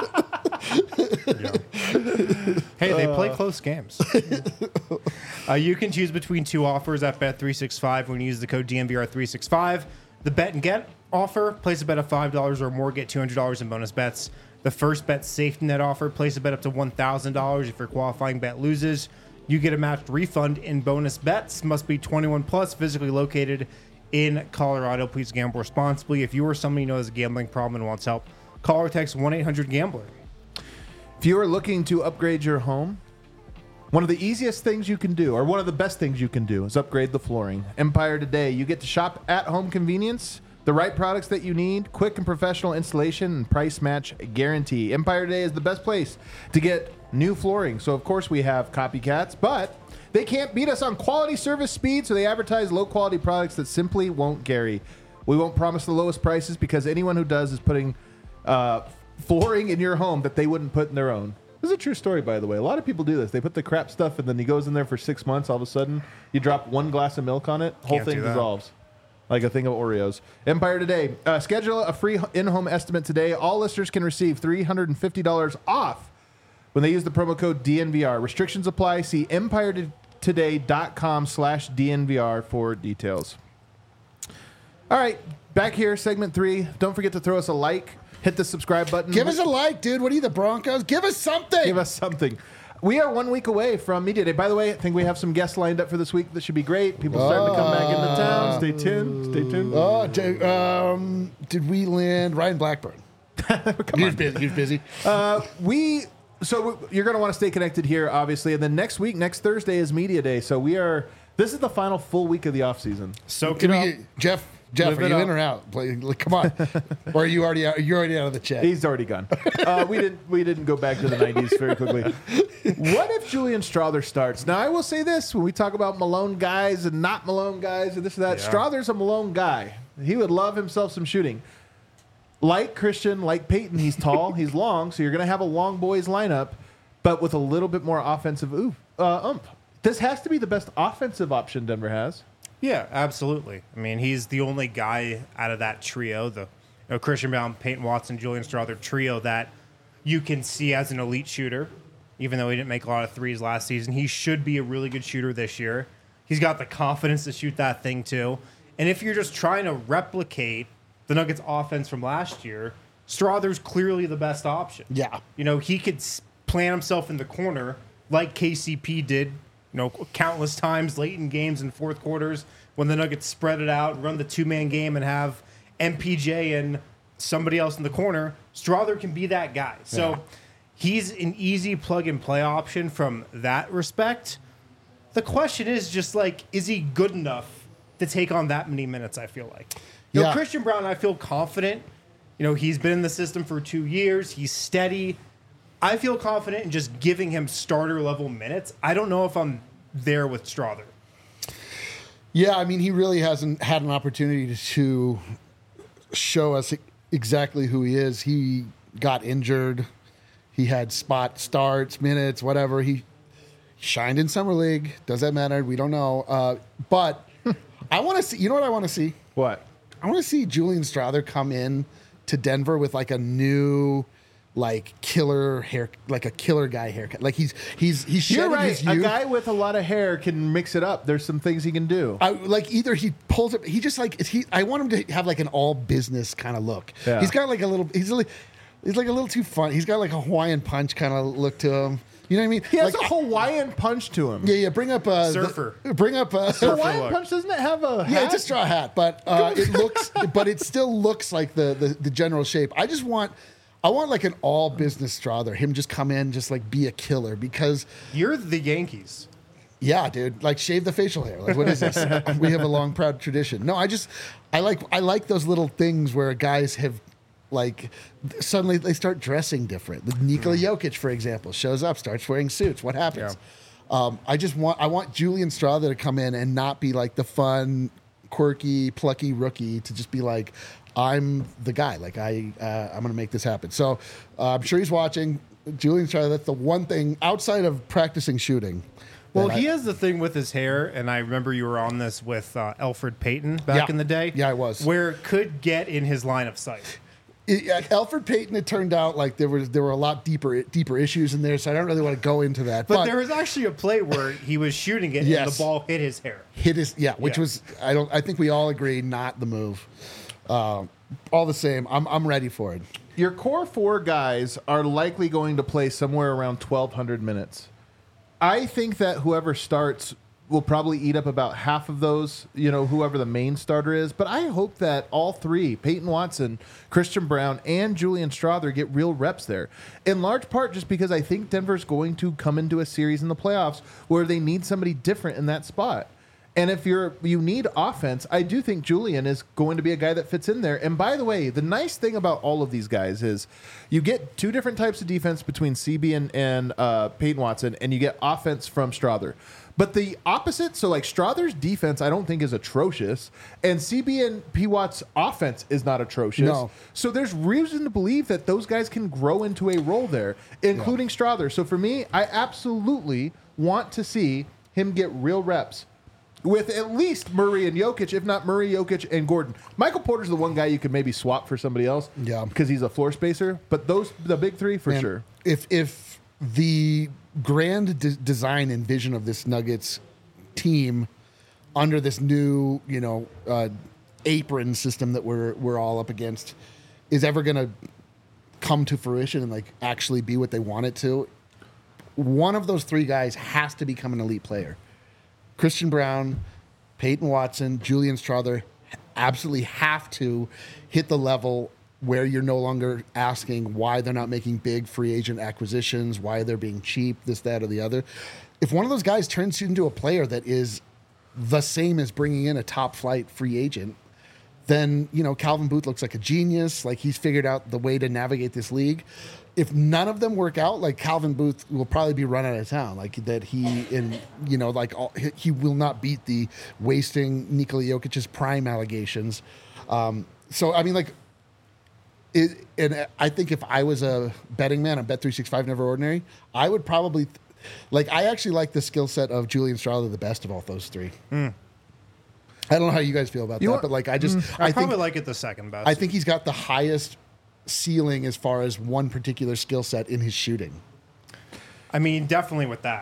Hey, they play close games. uh, you can choose between two offers at Bet three sixty-five when you use the code D N V R three sixty-five. The bet and get offer, place a bet of five dollars or more, get two hundred dollars in bonus bets. The first bet safety net offer, place a bet up to one thousand dollars. If your qualifying bet loses, you get a matched refund in bonus bets. Must be twenty-one plus, physically located in Colorado. Please gamble responsibly. If you or somebody you know has a gambling problem and wants help, call or text one eight hundred gambler. If you are looking to upgrade your home, one of the easiest things you can do, or one of the best things you can do, is upgrade the flooring. Empire Today, you get to shop at home convenience, the right products that you need, quick and professional installation, and price match guarantee. Empire Today is the best place to get new flooring. So, of course, we have copycats, but they can't beat us on quality, service, speed, so they advertise low-quality products that simply won't carry. We won't promise the lowest prices because anyone who does is putting uh, flooring in your home that they wouldn't put in their own. This is a true story, by the way. A lot of people do this. They put the crap stuff, and then he goes in there for six months. All of a sudden, you drop one glass of milk on it, whole Can't thing do that. dissolves like a thing of Oreos. Empire Today. Uh, schedule a free in-home estimate today. All listeners can receive three hundred fifty dollars off when they use the promo code D N V R. Restrictions apply. See empire today dot com slash D N V R for details. All right, back here, segment three. Don't forget to throw us a like. Hit the subscribe button. Give us a like, dude. What are you, the Broncos? Give us something. Give us something. We are one week away from Media Day. By the way, I think we have some guests lined up for this week that should be great. People starting to come back into town. Stay tuned. Stay tuned. Oh, d- um, did we land Ryan Blackburn? Come on. Busy. He's busy. Uh, we so we- you're going to want to stay connected here, obviously, and then next week, next Thursday is Media Day. So we are. This is the final full week of the off season. Soak Can it we up. get, Jeff, Jeff, Live are it you up. in or out? Play, like, come on. Or are you already out? You're already out of the chat. He's already gone. Uh, we didn't. We didn't go back to the nineties very quickly. What if Julian Strother starts? Now, I will say this: when we talk about Malone guys and not Malone guys and this and that, Yeah. Strother's a Malone guy. He would love himself some shooting. Like Christian, like Peyton, he's tall, he's long, so you're going to have a long boys lineup, but with a little bit more offensive oof, uh, ump. This has to be the best offensive option Denver has. Yeah, absolutely. I mean, he's the only guy out of that trio, the you know, Christian Brown, Peyton Watson, Julian Strother trio that you can see as an elite shooter. Even though he didn't make a lot of threes last season, he should be a really good shooter this year. He's got the confidence to shoot that thing too. And if you're just trying to replicate the Nuggets offense from last year, Strother's clearly the best option. Yeah. You know, he could s- plant himself in the corner like K C P did, you know, countless times late in games and fourth quarters when the Nuggets spread it out, run the two-man game, and have M P J and somebody else in the corner. Strother can be that guy. So Yeah. he's an easy plug-and-play option from that respect. The question is just, like, is he good enough to take on that many minutes, I feel like? You know, Yeah. Christian Braun, I feel confident. You know, he's been in the system for two years. He's steady. I feel confident in just giving him starter-level minutes. I don't know if I'm there with Strother. Yeah, I mean, he really hasn't had an opportunity to show us exactly who he is. He got injured. He had spot starts, minutes, whatever. He shined in summer league. Does that matter? We don't know. Uh, but I want to see. You know what I want to see? What? I want to see Julian Strother come in to Denver with like a new, like killer hair, like a killer guy haircut. Like he's he's he's You're shedding right. his A youth. guy with a lot of hair can mix it up. There's some things he can do. I, like either he pulls it, he just like he. I want him to have like an all business kind of look. Yeah. He's got like a little. He's like he's like a little too fun. He's got like a Hawaiian punch kind of look to him. You know what I mean? He has like, a Hawaiian punch to him. yeah, yeah. Bring up uh, Surfer. The, bring up. Uh, Hawaiian look. punch doesn't it have a hat? Yeah, it's a straw hat, but uh, it looks, but it still looks like the, the the general shape. I just want, I want like an all business Strother. Him just come in, just like be a killer because, You're the Yankees. yeah, dude, like shave the facial hair. Like, what is this? We have a long, proud tradition. No, I just, I like, I like those little things where guys have, like, suddenly they start dressing different. The Nikola Jokic, for example, shows up, starts wearing suits. What happens? Um, I just want, I want Julian Strother to come in and not be like the fun, quirky, plucky rookie. To just be like, I'm the guy. Like I, uh, I'm going to make this happen. So uh, I'm sure he's watching. Julian Strother. That's the one thing outside of practicing shooting. Well, that he I- has the thing with his hair, and I remember you were on this with uh, Alfred Payton back Yeah. in the day. Yeah, I was. Where it could get in his line of sight. It, at Alfred Payton, it turned out like there was there were a lot deeper deeper issues in there, so I don't really want to go into that. But, But, there was actually a play where he was shooting it and Yes. the ball hit his hair. hit his yeah, which Yeah. was I don't I think we all agree not the move. Um, all the same, I'm I'm ready for it. Your core four guys are likely going to play somewhere around twelve hundred minutes. I think that whoever starts will probably eat up about half of those, you know, whoever the main starter is. But I hope that all three, Peyton Watson, Christian Braun, and Julian Strother, get real reps there. In large part just because I think Denver's going to come into a series in the playoffs where they need somebody different in that spot. And if you're you need offense, I do think Julian is going to be a guy that fits in there. And by the way, the nice thing about all of these guys is you get two different types of defense between C B and, and uh, Peyton Watson, and you get offense from Strother. But the opposite, so like Strother's defense, I don't think is atrocious, and C B and P Watt's offense is not atrocious. No. So there's reason to believe that those guys can grow into a role there, including Strother. So for me, I absolutely want to see him get real reps with at least Murray and Jokic, if not Murray, Jokic, and Gordon. Michael Porter's the one guy you could maybe swap for somebody else, Yeah. because he's a floor spacer. But those, the big three, for Man, sure. If if the grand de- design and vision of this Nuggets team under this new, you know, uh, apron system that we're we're all up against is ever going to come to fruition and like actually be what they want it to, one of those three guys has to become an elite player. Christian Braun, Peyton Watson, Julian Strother absolutely have to hit the level where you're no longer asking why they're not making big free agent acquisitions, why they're being cheap, this, that, or the other. If one of those guys turns into a player that is the same as bringing in a top flight free agent, then, you know, Calvin Booth looks like a genius. Like, he's figured out the way to navigate this league. If none of them work out, like, Calvin Booth will probably be run out of town. Like, that he, in, you know, like, all, he- he will not beat the wasting Nikola Jokic's prime allegations. Um, so, I mean, like, it, and I think if I was a betting man on Bet three sixty-five Never Ordinary, I would probably, like, I actually like the skill set of Julian Strother the best of all those three. I don't know how you guys feel about You that, want- but like I just I, I probably think like it the second best. I think he's got the highest ceiling as far as one particular skill set in his shooting. I mean, definitely with that.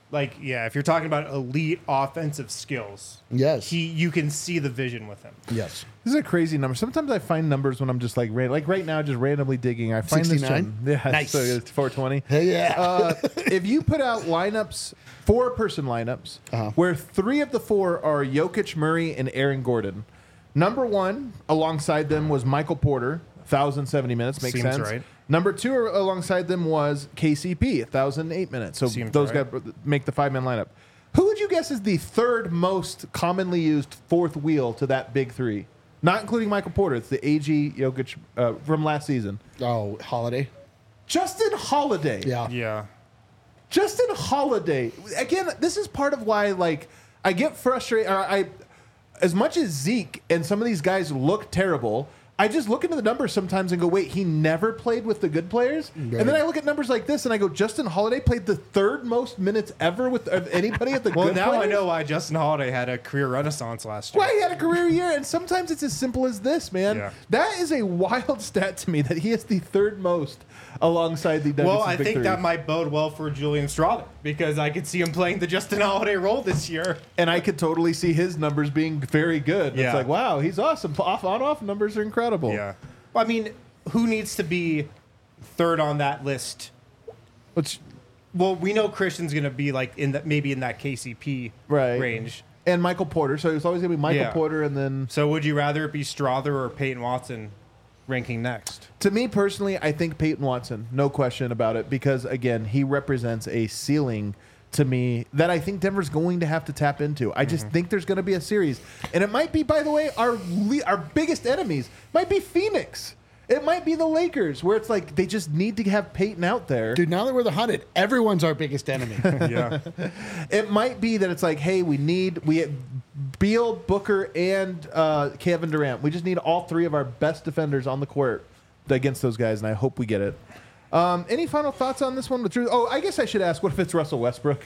like, yeah, if you're talking about elite offensive skills, Yes. he you can see the vision with him. Yes. This is a crazy number. Sometimes I find numbers when I'm just like, ran- like right now, just randomly digging. I find sixty-nine? this. Yeah, Nice. so it's four twenty. Hey, yeah. Uh, if you put out lineups, four person lineups, Uh-huh. where three of the four are Jokic, Murray, and Aaron Gordon. Number one alongside them was Michael Porter, one thousand seventy minutes. Makes Seems sense. right. Number two alongside them was K C P, one thousand eight minutes. So Seems those right. guys make the five man lineup. Who would you guess is the third most commonly used fourth wheel to that big three? Not including Michael Porter. It's the A G Jokic uh, from last season. Oh, Holiday. Justin Holiday. Yeah. Yeah. Justin Holiday. Again, this is part of why, like, I get frustrated. Or I, as much as Zeke and some of these guys look terrible, I just look into the numbers sometimes and go, wait, he never played with the good players? Right. And then I look at numbers like this and I go, Justin Holiday played the third most minutes ever with of anybody at the Well, good now players? I know why Justin Holiday had a career renaissance last year. Why he had a career year, and sometimes it's as simple as this, man. Yeah. That is a wild stat to me that he is the third most alongside the Nuggets. Well, I big think three. that might bode well for Julian Strother because I could see him playing the Justin Holiday role this year. And I could totally see his numbers being very good. Yeah. It's like, wow, he's awesome. Off on off numbers are incredible. Yeah. Well, I mean, who needs to be third on that list? Which Well, we know Christian's going to be like in that maybe in that K C P Right. range. and Michael Porter, so it's always gonna be Michael Yeah. Porter, and then So would you rather it be Strother or Peyton Watson ranking next? to me personally, I think Peyton Watson, no question about it, because again, he represents a ceiling to me that I think Denver's going to have to tap into. I just think there's going to be a series, and it might be, by the way, our le- our biggest enemies might be Phoenix. It might be the Lakers, where it's like they just need to have Peyton out there. Dude, now that we're the hunted, everyone's our biggest enemy. Yeah. It might be that it's like, hey, we need we Beal, Booker, and uh, Kevin Durant. We just need all three of our best defenders on the court against those guys, and I hope we get it. Um, any final thoughts on this one? With Drew? Oh, I guess I should ask, what if it's Russell Westbrook?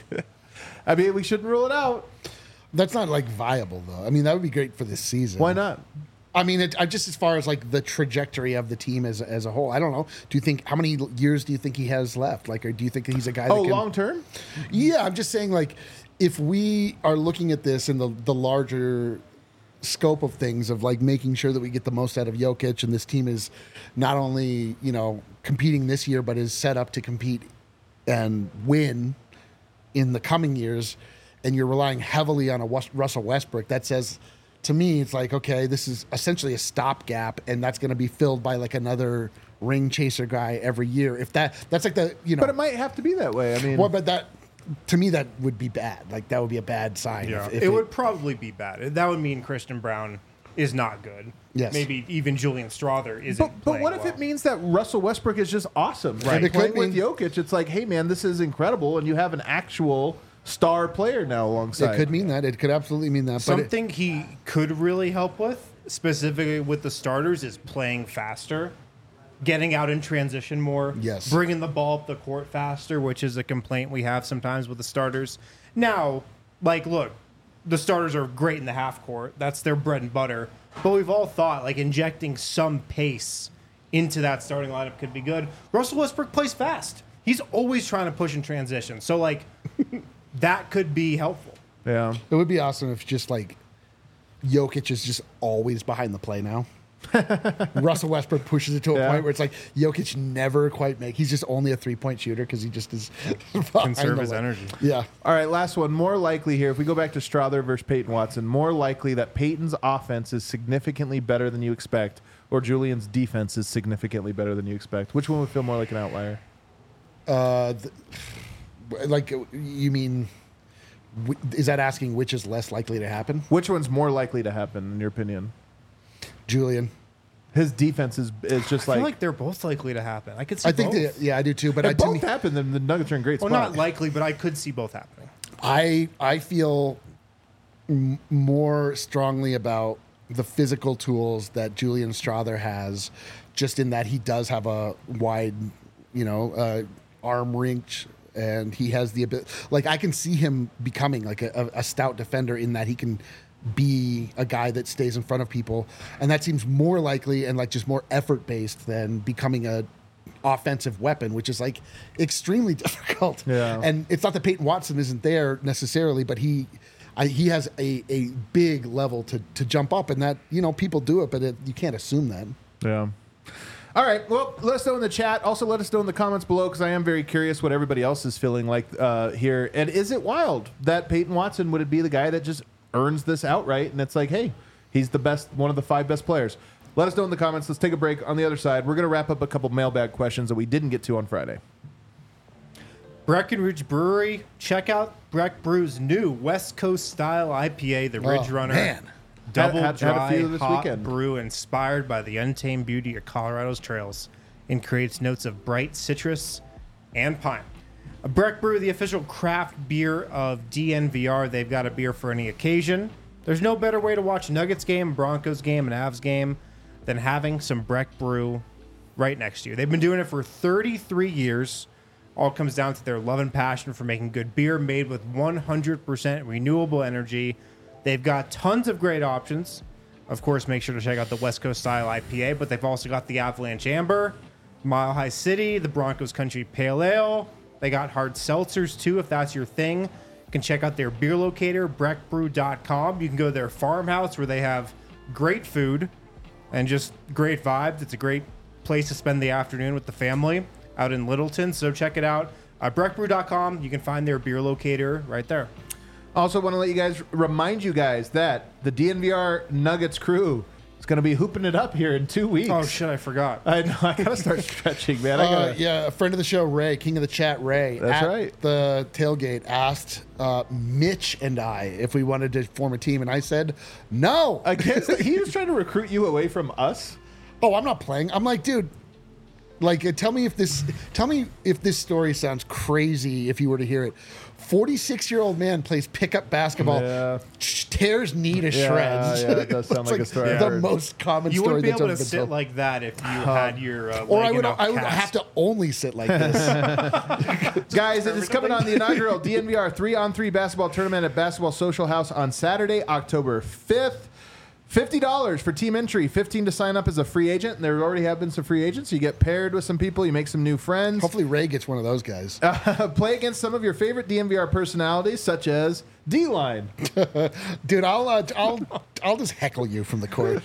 I mean, we shouldn't rule it out. That's not like viable though. I mean, that would be great for this season. Why not? I mean, it, I just as far as like the trajectory of the team as as a whole. I don't know. Do you think how many years do you think he has left? Like, or do you think that he's a guy? Oh, that can, long term? Yeah, I'm just saying, like, if we are looking at this in the the larger scope of things, of like making sure that we get the most out of Jokic, and this team is not only, you know, competing this year, but is set up to compete and win in the coming years, and you're relying heavily on a West, Russell Westbrook, that says, to me, it's like, okay, this is essentially a stopgap, and that's going to be filled by like another ring chaser guy every year. If that, that's like the, you know, But it might have to be that way. I mean, well, but that, to me, that would be bad. Like, that would be a bad sign. Yeah. if- if it, would probably be bad. That would mean Christian Brown is not good. Yes. Maybe even Julian Strother isn't But, but playing what if well. it means that Russell Westbrook is just awesome? Right. And It playing could with mean- Jokic, it's like, hey, man, this is incredible, and you have an actual star player now alongside. It could mean that. It could absolutely mean that. But it, Something he could really help with, specifically with the starters, is playing faster, getting out in transition more, Yes. bringing the ball up the court faster, which is a complaint we have sometimes with the starters. Now, like, look, the starters are great in the half court. That's their bread and butter. But we've all thought, like, injecting some pace into that starting lineup could be good. Russell Westbrook plays fast. He's always trying to push in transition. So, like, that could be helpful. Yeah. it would be awesome if just like Jokic is just always behind the play now. Russell Westbrook pushes it to a Yeah. point where it's like Jokic never quite make. He's just only a three point shooter because he just is behind Conserve the his line. energy. Yeah. All right, last one. More likely here, if we go back to Strother versus Peyton Watson, more likely that Peyton's offense is significantly better than you expect, or Julian's defense is significantly better than you expect. Which one would feel more like an outlier? Uh, th- like you mean? w- Is that asking which is less likely to happen? Which one's more likely to happen, in your opinion? Julian. His defense is is just I like, feel like they're both likely to happen. I could see I think both. that, yeah, I do too. But I if to both me, happen, then the Nuggets are in great Well, spot. not likely, but I could see both happening. I I feel m- more strongly about the physical tools that Julian Strother has, just in that he does have a wide, you know, uh, arm reach, and he has the ability. Like, I can see him becoming like a, a, a stout defender in that he can be a guy that stays in front of people, and that seems more likely and like just more effort based than becoming a offensive weapon, which is like extremely difficult. Yeah. And it's not that Peyton Watson isn't there necessarily, but he I, he has a, a big level to, to jump up, and that, you know, people do it, but it, you can't assume that. Yeah. All right. Well, let us know in the chat. Also, let us know in the comments below, because I am very curious what everybody else is feeling like uh, here. And is it wild that Peyton Watson would it be the guy that just earns this outright? And it's like, hey, he's the best, one of the five best players. Let us know in the comments. Let's take a break. On the other side, we're going to wrap up a couple mailbag questions that we didn't get to on Friday. Breckenridge Brewery. Check out Breck Brew's new West Coast style I P A, the Ridge Oh, Runner. man. Double Had- had a dry few this hot weekend. brew inspired by the untamed beauty of Colorado's trails and creates notes of bright citrus and pine. A Breck Brew, the official craft beer of D N V R. They've got a beer for any occasion. There's no better way to watch Nuggets game, Broncos game, and Avs game than having some Breck Brew right next to you. They've been doing it for thirty-three years. All comes down to their love and passion for making good beer made with one hundred percent renewable energy. They've got tons of great options. Of course, make sure to check out the West Coast style I P A, but they've also got the Avalanche Amber, Mile High City, the Broncos Country Pale Ale. They got hard seltzers too, if that's your thing. You can check out their beer locator, breck brew dot com. You can go to their farmhouse where they have great food and just great vibes. It's a great place to spend the afternoon with the family out in Littleton. So check it out. Uh, breck brew dot com. You can find their beer locator right there. Also, want to let you guys remind you guys that the D N V R Nuggets crew is going to be hooping it up here in two weeks. Oh, shit, I forgot. I know. I got to start stretching, man. I Uh, gotta, yeah, a friend of the show, Ray, king of the chat, Ray. That's at right. The tailgate asked uh, Mitch and I if we wanted to form a team, and I said no. Against, he was trying to recruit you away from us. Oh, I'm not playing. I'm like, dude. Like, uh, tell me if this, tell me if this story sounds crazy. If you were to hear it, forty-six-year-old man plays pickup basketball, Yeah. sh- tears knee to Yeah, shreds. yeah, it does sound It's like a story I've The heard. most common You story wouldn't be that's able to ever been sit told. like that if you had your uh, Or leg I would, in a I would cast. have to only sit like this. Guys, it is coming on the inaugural D N V R three on three basketball tournament at Basketball Social House on Saturday, October fifth. fifty dollars for team entry, fifteen dollars to sign up as a free agent. And there already have been some free agents. You get paired with some people, you make some new friends. Hopefully, Ray gets one of those guys. Uh, play against some of your favorite D N V R personalities, such as D-Line. Dude, I'll uh, I'll I'll just heckle you from the court.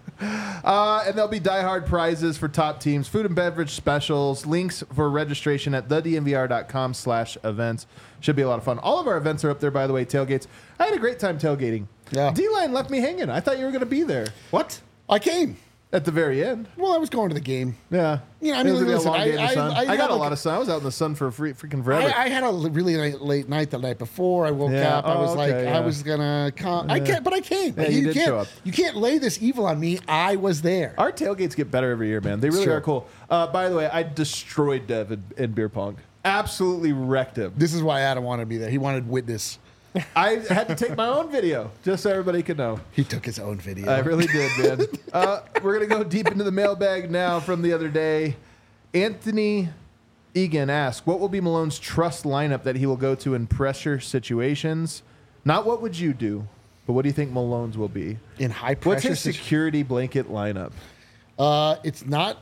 Uh, and there'll be diehard prizes for top teams, food and beverage specials, links for registration at the d n v r dot com slash events. Should be a lot of fun. All of our events are up there, by the way, tailgates. I had a great time tailgating. Yeah. D-Line left me hanging. I thought you were going to be there. What? I came. At the very end. Well, I was going to the game. Yeah. Yeah, I It mean, was gonna be a listen, long I- day in the I- sun. I I, had got a a- lot of sun. I was out in the sun for free, freaking forever. I, I had a l- really late, late night the night before. I woke Yeah. up. I was Oh, like, okay, I yeah. was gonna come. I can't, but I came. Yeah, you did can't. show up. You can't lay this evil on me. I was there. Our tailgates get better every year, man. They really Sure. are cool. Uh, by the way, I destroyed Dev in, in beer pong. Absolutely wrecked him. This is why Adam wanted to be there. He wanted witness. I had to take my own video just so everybody could know. He took his own video. I really did, man. Uh, we're going to go deep into the mailbag now from the other day. Anthony Egan asks, what will be Malone's trust lineup that he will go to in pressure situations? Not what would you do, but what do you think Malone's will be? In high What's pressure. his situ- security blanket lineup? uh, it's not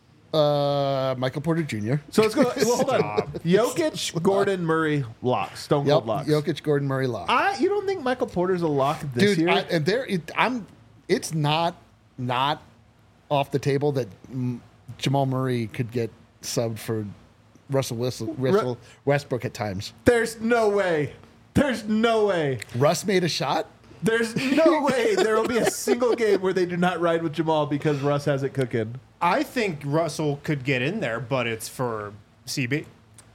uh, Michael Porter Junior So let's go. Well, hold on. Jokic, Gordon, Murray, lock. Stone Yep. cold locks. Jokic, Gordon, Murray, lock. I, you don't think Michael Porter's a lock this Dude, year? I, and there, it, I'm. It's not not off the table that mm, Jamal Murray could get subbed for Russell, Whistle, Russell Westbrook at times. There's no way. There's no way. Russ made a shot. There's no way there will be a single game where they do not ride with Jamal because Russ has it cooking. I think Russell could get in there, but it's for C B.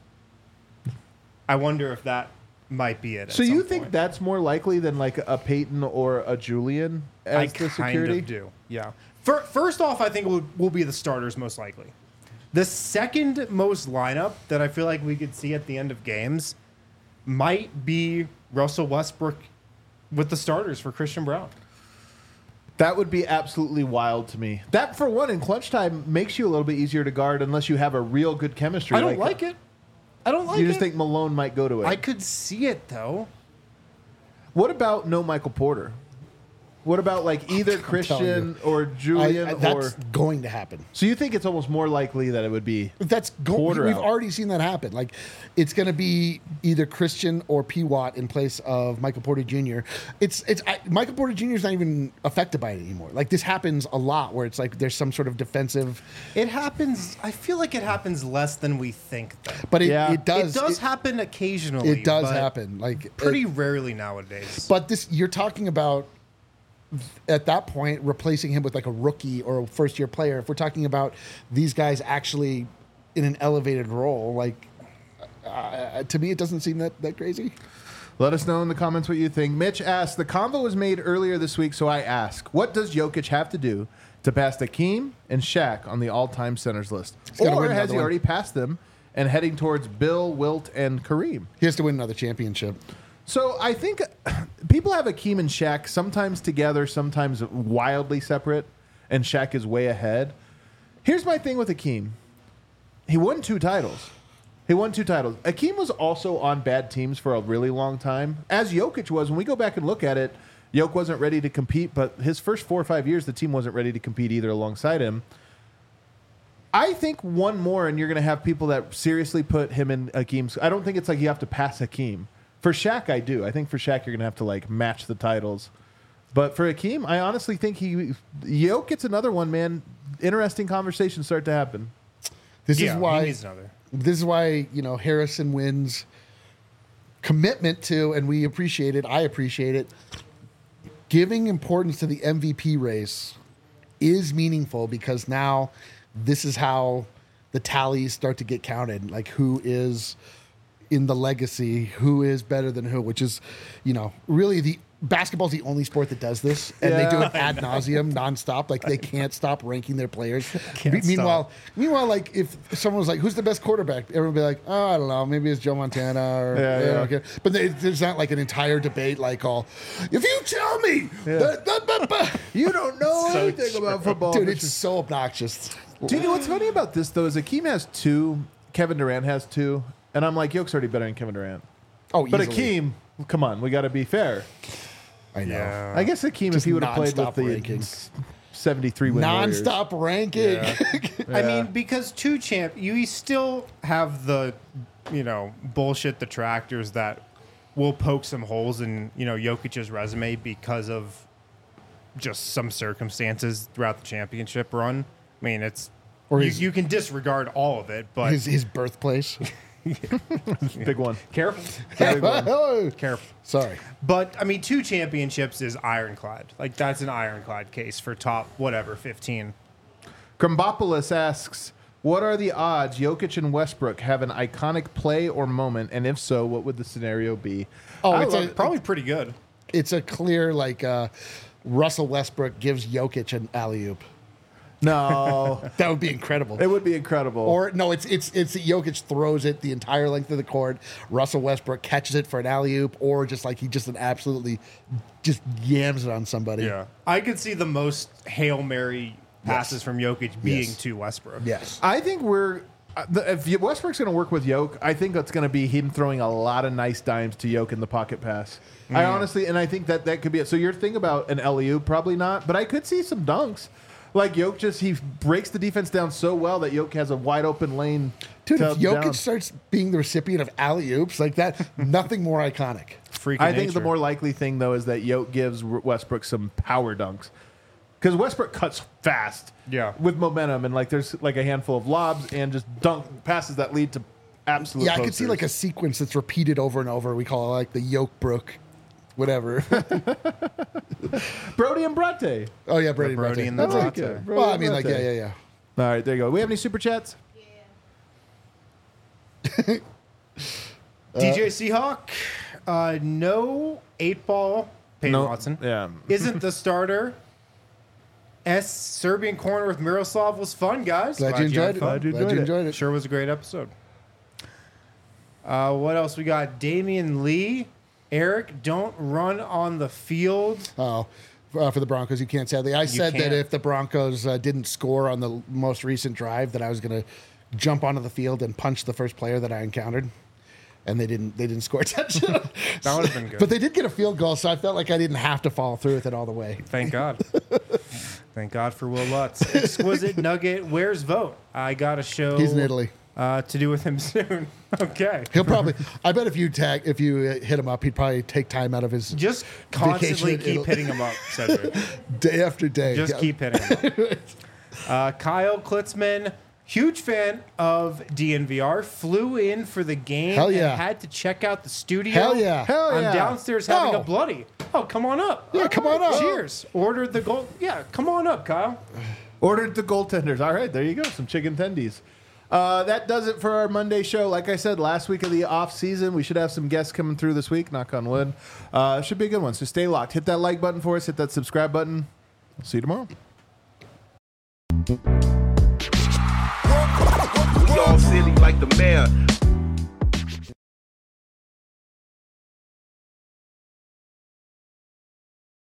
I wonder if that might be it. at So you some think point. that's more likely than like a Peyton or a Julian as I the kind security? of do. Yeah. Fir- First off, I think it will, will be the starters most likely. The second most lineup that I feel like we could see at the end of games might be Russell Westbrook with the starters for Christian Brown. That would be absolutely wild to me. That, for one, in clutch time makes you a little bit easier to guard unless you have a real good chemistry. I don't like, it. I don't like You it. just think Malone might go to it. I could see it though. What about no Michael Porter? What about like either Christian or Julian I, I, that's or? going to happen. So you think it's almost more likely that it would be? That's going. Porter We've out. already seen that happen. Like, it's going to be either Christian or P. Watt in place of Michael Porter Junior It's it's I, Michael Porter Junior is not even affected by it anymore. Like, this happens a lot where it's like there's some sort of defensive, It happens. I feel like it happens less than we think. Though. but it, Yeah. it does. it does it, happen occasionally. It does but happen. Like Pretty it- rarely nowadays. but this you're talking about at that point replacing him with like a rookie or a first year player. If we're talking about these guys actually in an elevated role, like uh, to me, it doesn't seem that that crazy. Let us know in the comments what you think. Mitch asked, the convo was made earlier this week, so I ask, what does Jokic have to do to pass Hakeem and Shaq on the all-time centers list? gotta Or win has another he one. already passed them and heading towards Bill, Wilt, and Kareem? He has to win another championship. So I think people have Hakeem and Shaq sometimes together, sometimes wildly separate, and Shaq is way ahead. Here's my thing with Hakeem. He won two titles. He won two titles. Hakeem was also on bad teams for a really long time, as Jokic was. When we go back and look at it, Jokic wasn't ready to compete, but his first four or five years, the team wasn't ready to compete either alongside him. I think one more, and you're going to have people that seriously put him in Hakeem's. I don't think it's like you have to pass Hakeem. For Shaq, I do. I think for Shaq, you're going to have to like match the titles. But for Hakeem, I honestly think he Jokic gets another one, man. Interesting conversations start to happen. This yeah, is why. he needs another. This is why you know Harrison wins commitment to, and we appreciate it. I appreciate it. Giving importance to the M V P race is meaningful because now this is how the tallies start to get counted. Like who is in the legacy, who is better than who, which is, you know, really the basketball's the only sport that does this, and Yeah. they do it ad nauseum, nonstop. Like they can't stop ranking their players. Can't Me- meanwhile, stop. meanwhile, like if someone was like, "Who's the best quarterback?" Everyone would be like, "Oh, I don't know, maybe it's Joe Montana." Or, Yeah, you yeah. know, okay. But they, there's not like an entire debate like all. If you tell me, that, that, that, that-" You don't know So anything true. about football. dude, Mitch. it's so obnoxious. Do you know what's funny about this, though, is Hakeem has two, Kevin Durant has two, and I'm like, Jokic already better than Kevin Durant. Oh, But easily. Hakeem, come on, we got to be fair. I know. Yeah. I guess Hakeem, if Just he would have played with nonstop the ranking. seventy-three win Warriors. Non-stop ranking. I Yeah. mean, because two champ, you still have the, you know, bullshit detractors that will poke some holes in, you know, Jokic's resume because of just some circumstances throughout the championship run. I mean, it's Or you, his- you can disregard all of it, but his his birthplace. Big one. careful, Oh, careful. sorry. But I mean, two championships is ironclad. Like that's an ironclad case for top whatever fifteen. Krambopoulos asks, what are the odds Jokic and Westbrook have an iconic play or moment, and if so, what would the scenario be? Oh, I it's love- a, Probably pretty good. it's a clear like uh, Russell Westbrook gives Jokic an alley oop. No, That would be incredible. it would be incredible. Or no, it's it's it's Jokic throws it the entire length of the court. Russell Westbrook catches it for an alley oop, or just like he just an absolutely just yams it on somebody. Yeah, I could see the most Hail Mary passes Yes. from Jokic being Yes. to Westbrook. Yes. I think we're uh, the, if Westbrook's going to work with Jokic, I think that's going to be him throwing a lot of nice dimes to Jokic in the pocket pass. I honestly, and I think that that could be it. So you're thinking about an L E U, probably not, but I could see some dunks. Like Jokic just he breaks the defense down so well that Jokic has a wide open lane. Dude, to if Jokic down. starts being the recipient of alley oops like that, nothing more iconic. Freak. I think the more likely thing though is that Jokic gives Westbrook some power dunks. Because Westbrook cuts fast, Yeah. with momentum, and like there's like a handful of lobs and just dunk passes that lead to absolute. Yeah, I could see posters. like a sequence that's repeated over and over. We call it like the Yokebrook, whatever. Brody and Brate. Oh yeah, Brady Brody Brady. and the I like Brate. it. Brody Well, I and mean, like Brate. yeah, yeah, yeah. All right, there you go. We have any super chats? D J Seahawk, uh, no eight ball. Peyton Watson Yeah. isn't the starter. S Serbian corner with Miroslav was fun, guys. Glad you enjoyed had it. fun. Glad you Glad enjoyed you it. enjoyed it. Sure was a great episode. Uh, what else we got? Damian Lee, Eric, don't run on the field. Oh, uh, for the Broncos, you can't sadly. I said can't. that if the Broncos uh, didn't score on the most recent drive, that I was going to jump onto the field and punch the first player that I encountered. and they didn't they didn't score a touchdown. That would have been good. But they did get a field goal, so I felt like I didn't have to follow through with it all the way. Thank God. Thank God for Will Lutz. Exquisite Nugget. Where's Vogt? I got a show. He's in Italy. Uh, to do with him soon. Okay. He'll probably. I bet if you tag, if you uh, hit him up, he'd probably take time out of his Just constantly vacation in keep Italy. hitting him up, Cedric. day after day. Just Yeah. keep hitting him up. Uh, Kyle Klitzman, huge fan of D N V R, flew in for the game Hell yeah. and had to check out the studio. Hell yeah. Hell I'm yeah. downstairs having No. a bloody. Oh, come on up. Yeah, come on up. Cheers. Ordered the gold. Yeah, come on up, Kyle. Ordered the goaltenders. All right, there you go. Some chicken tendies. Uh, that does it for our Monday show. Like I said, last week of the off season, we should have some guests coming through this week. Knock on wood. Uh, should be a good one. So stay locked. Hit that like button for us. Hit that subscribe button. See you tomorrow. We all silly like the mayor.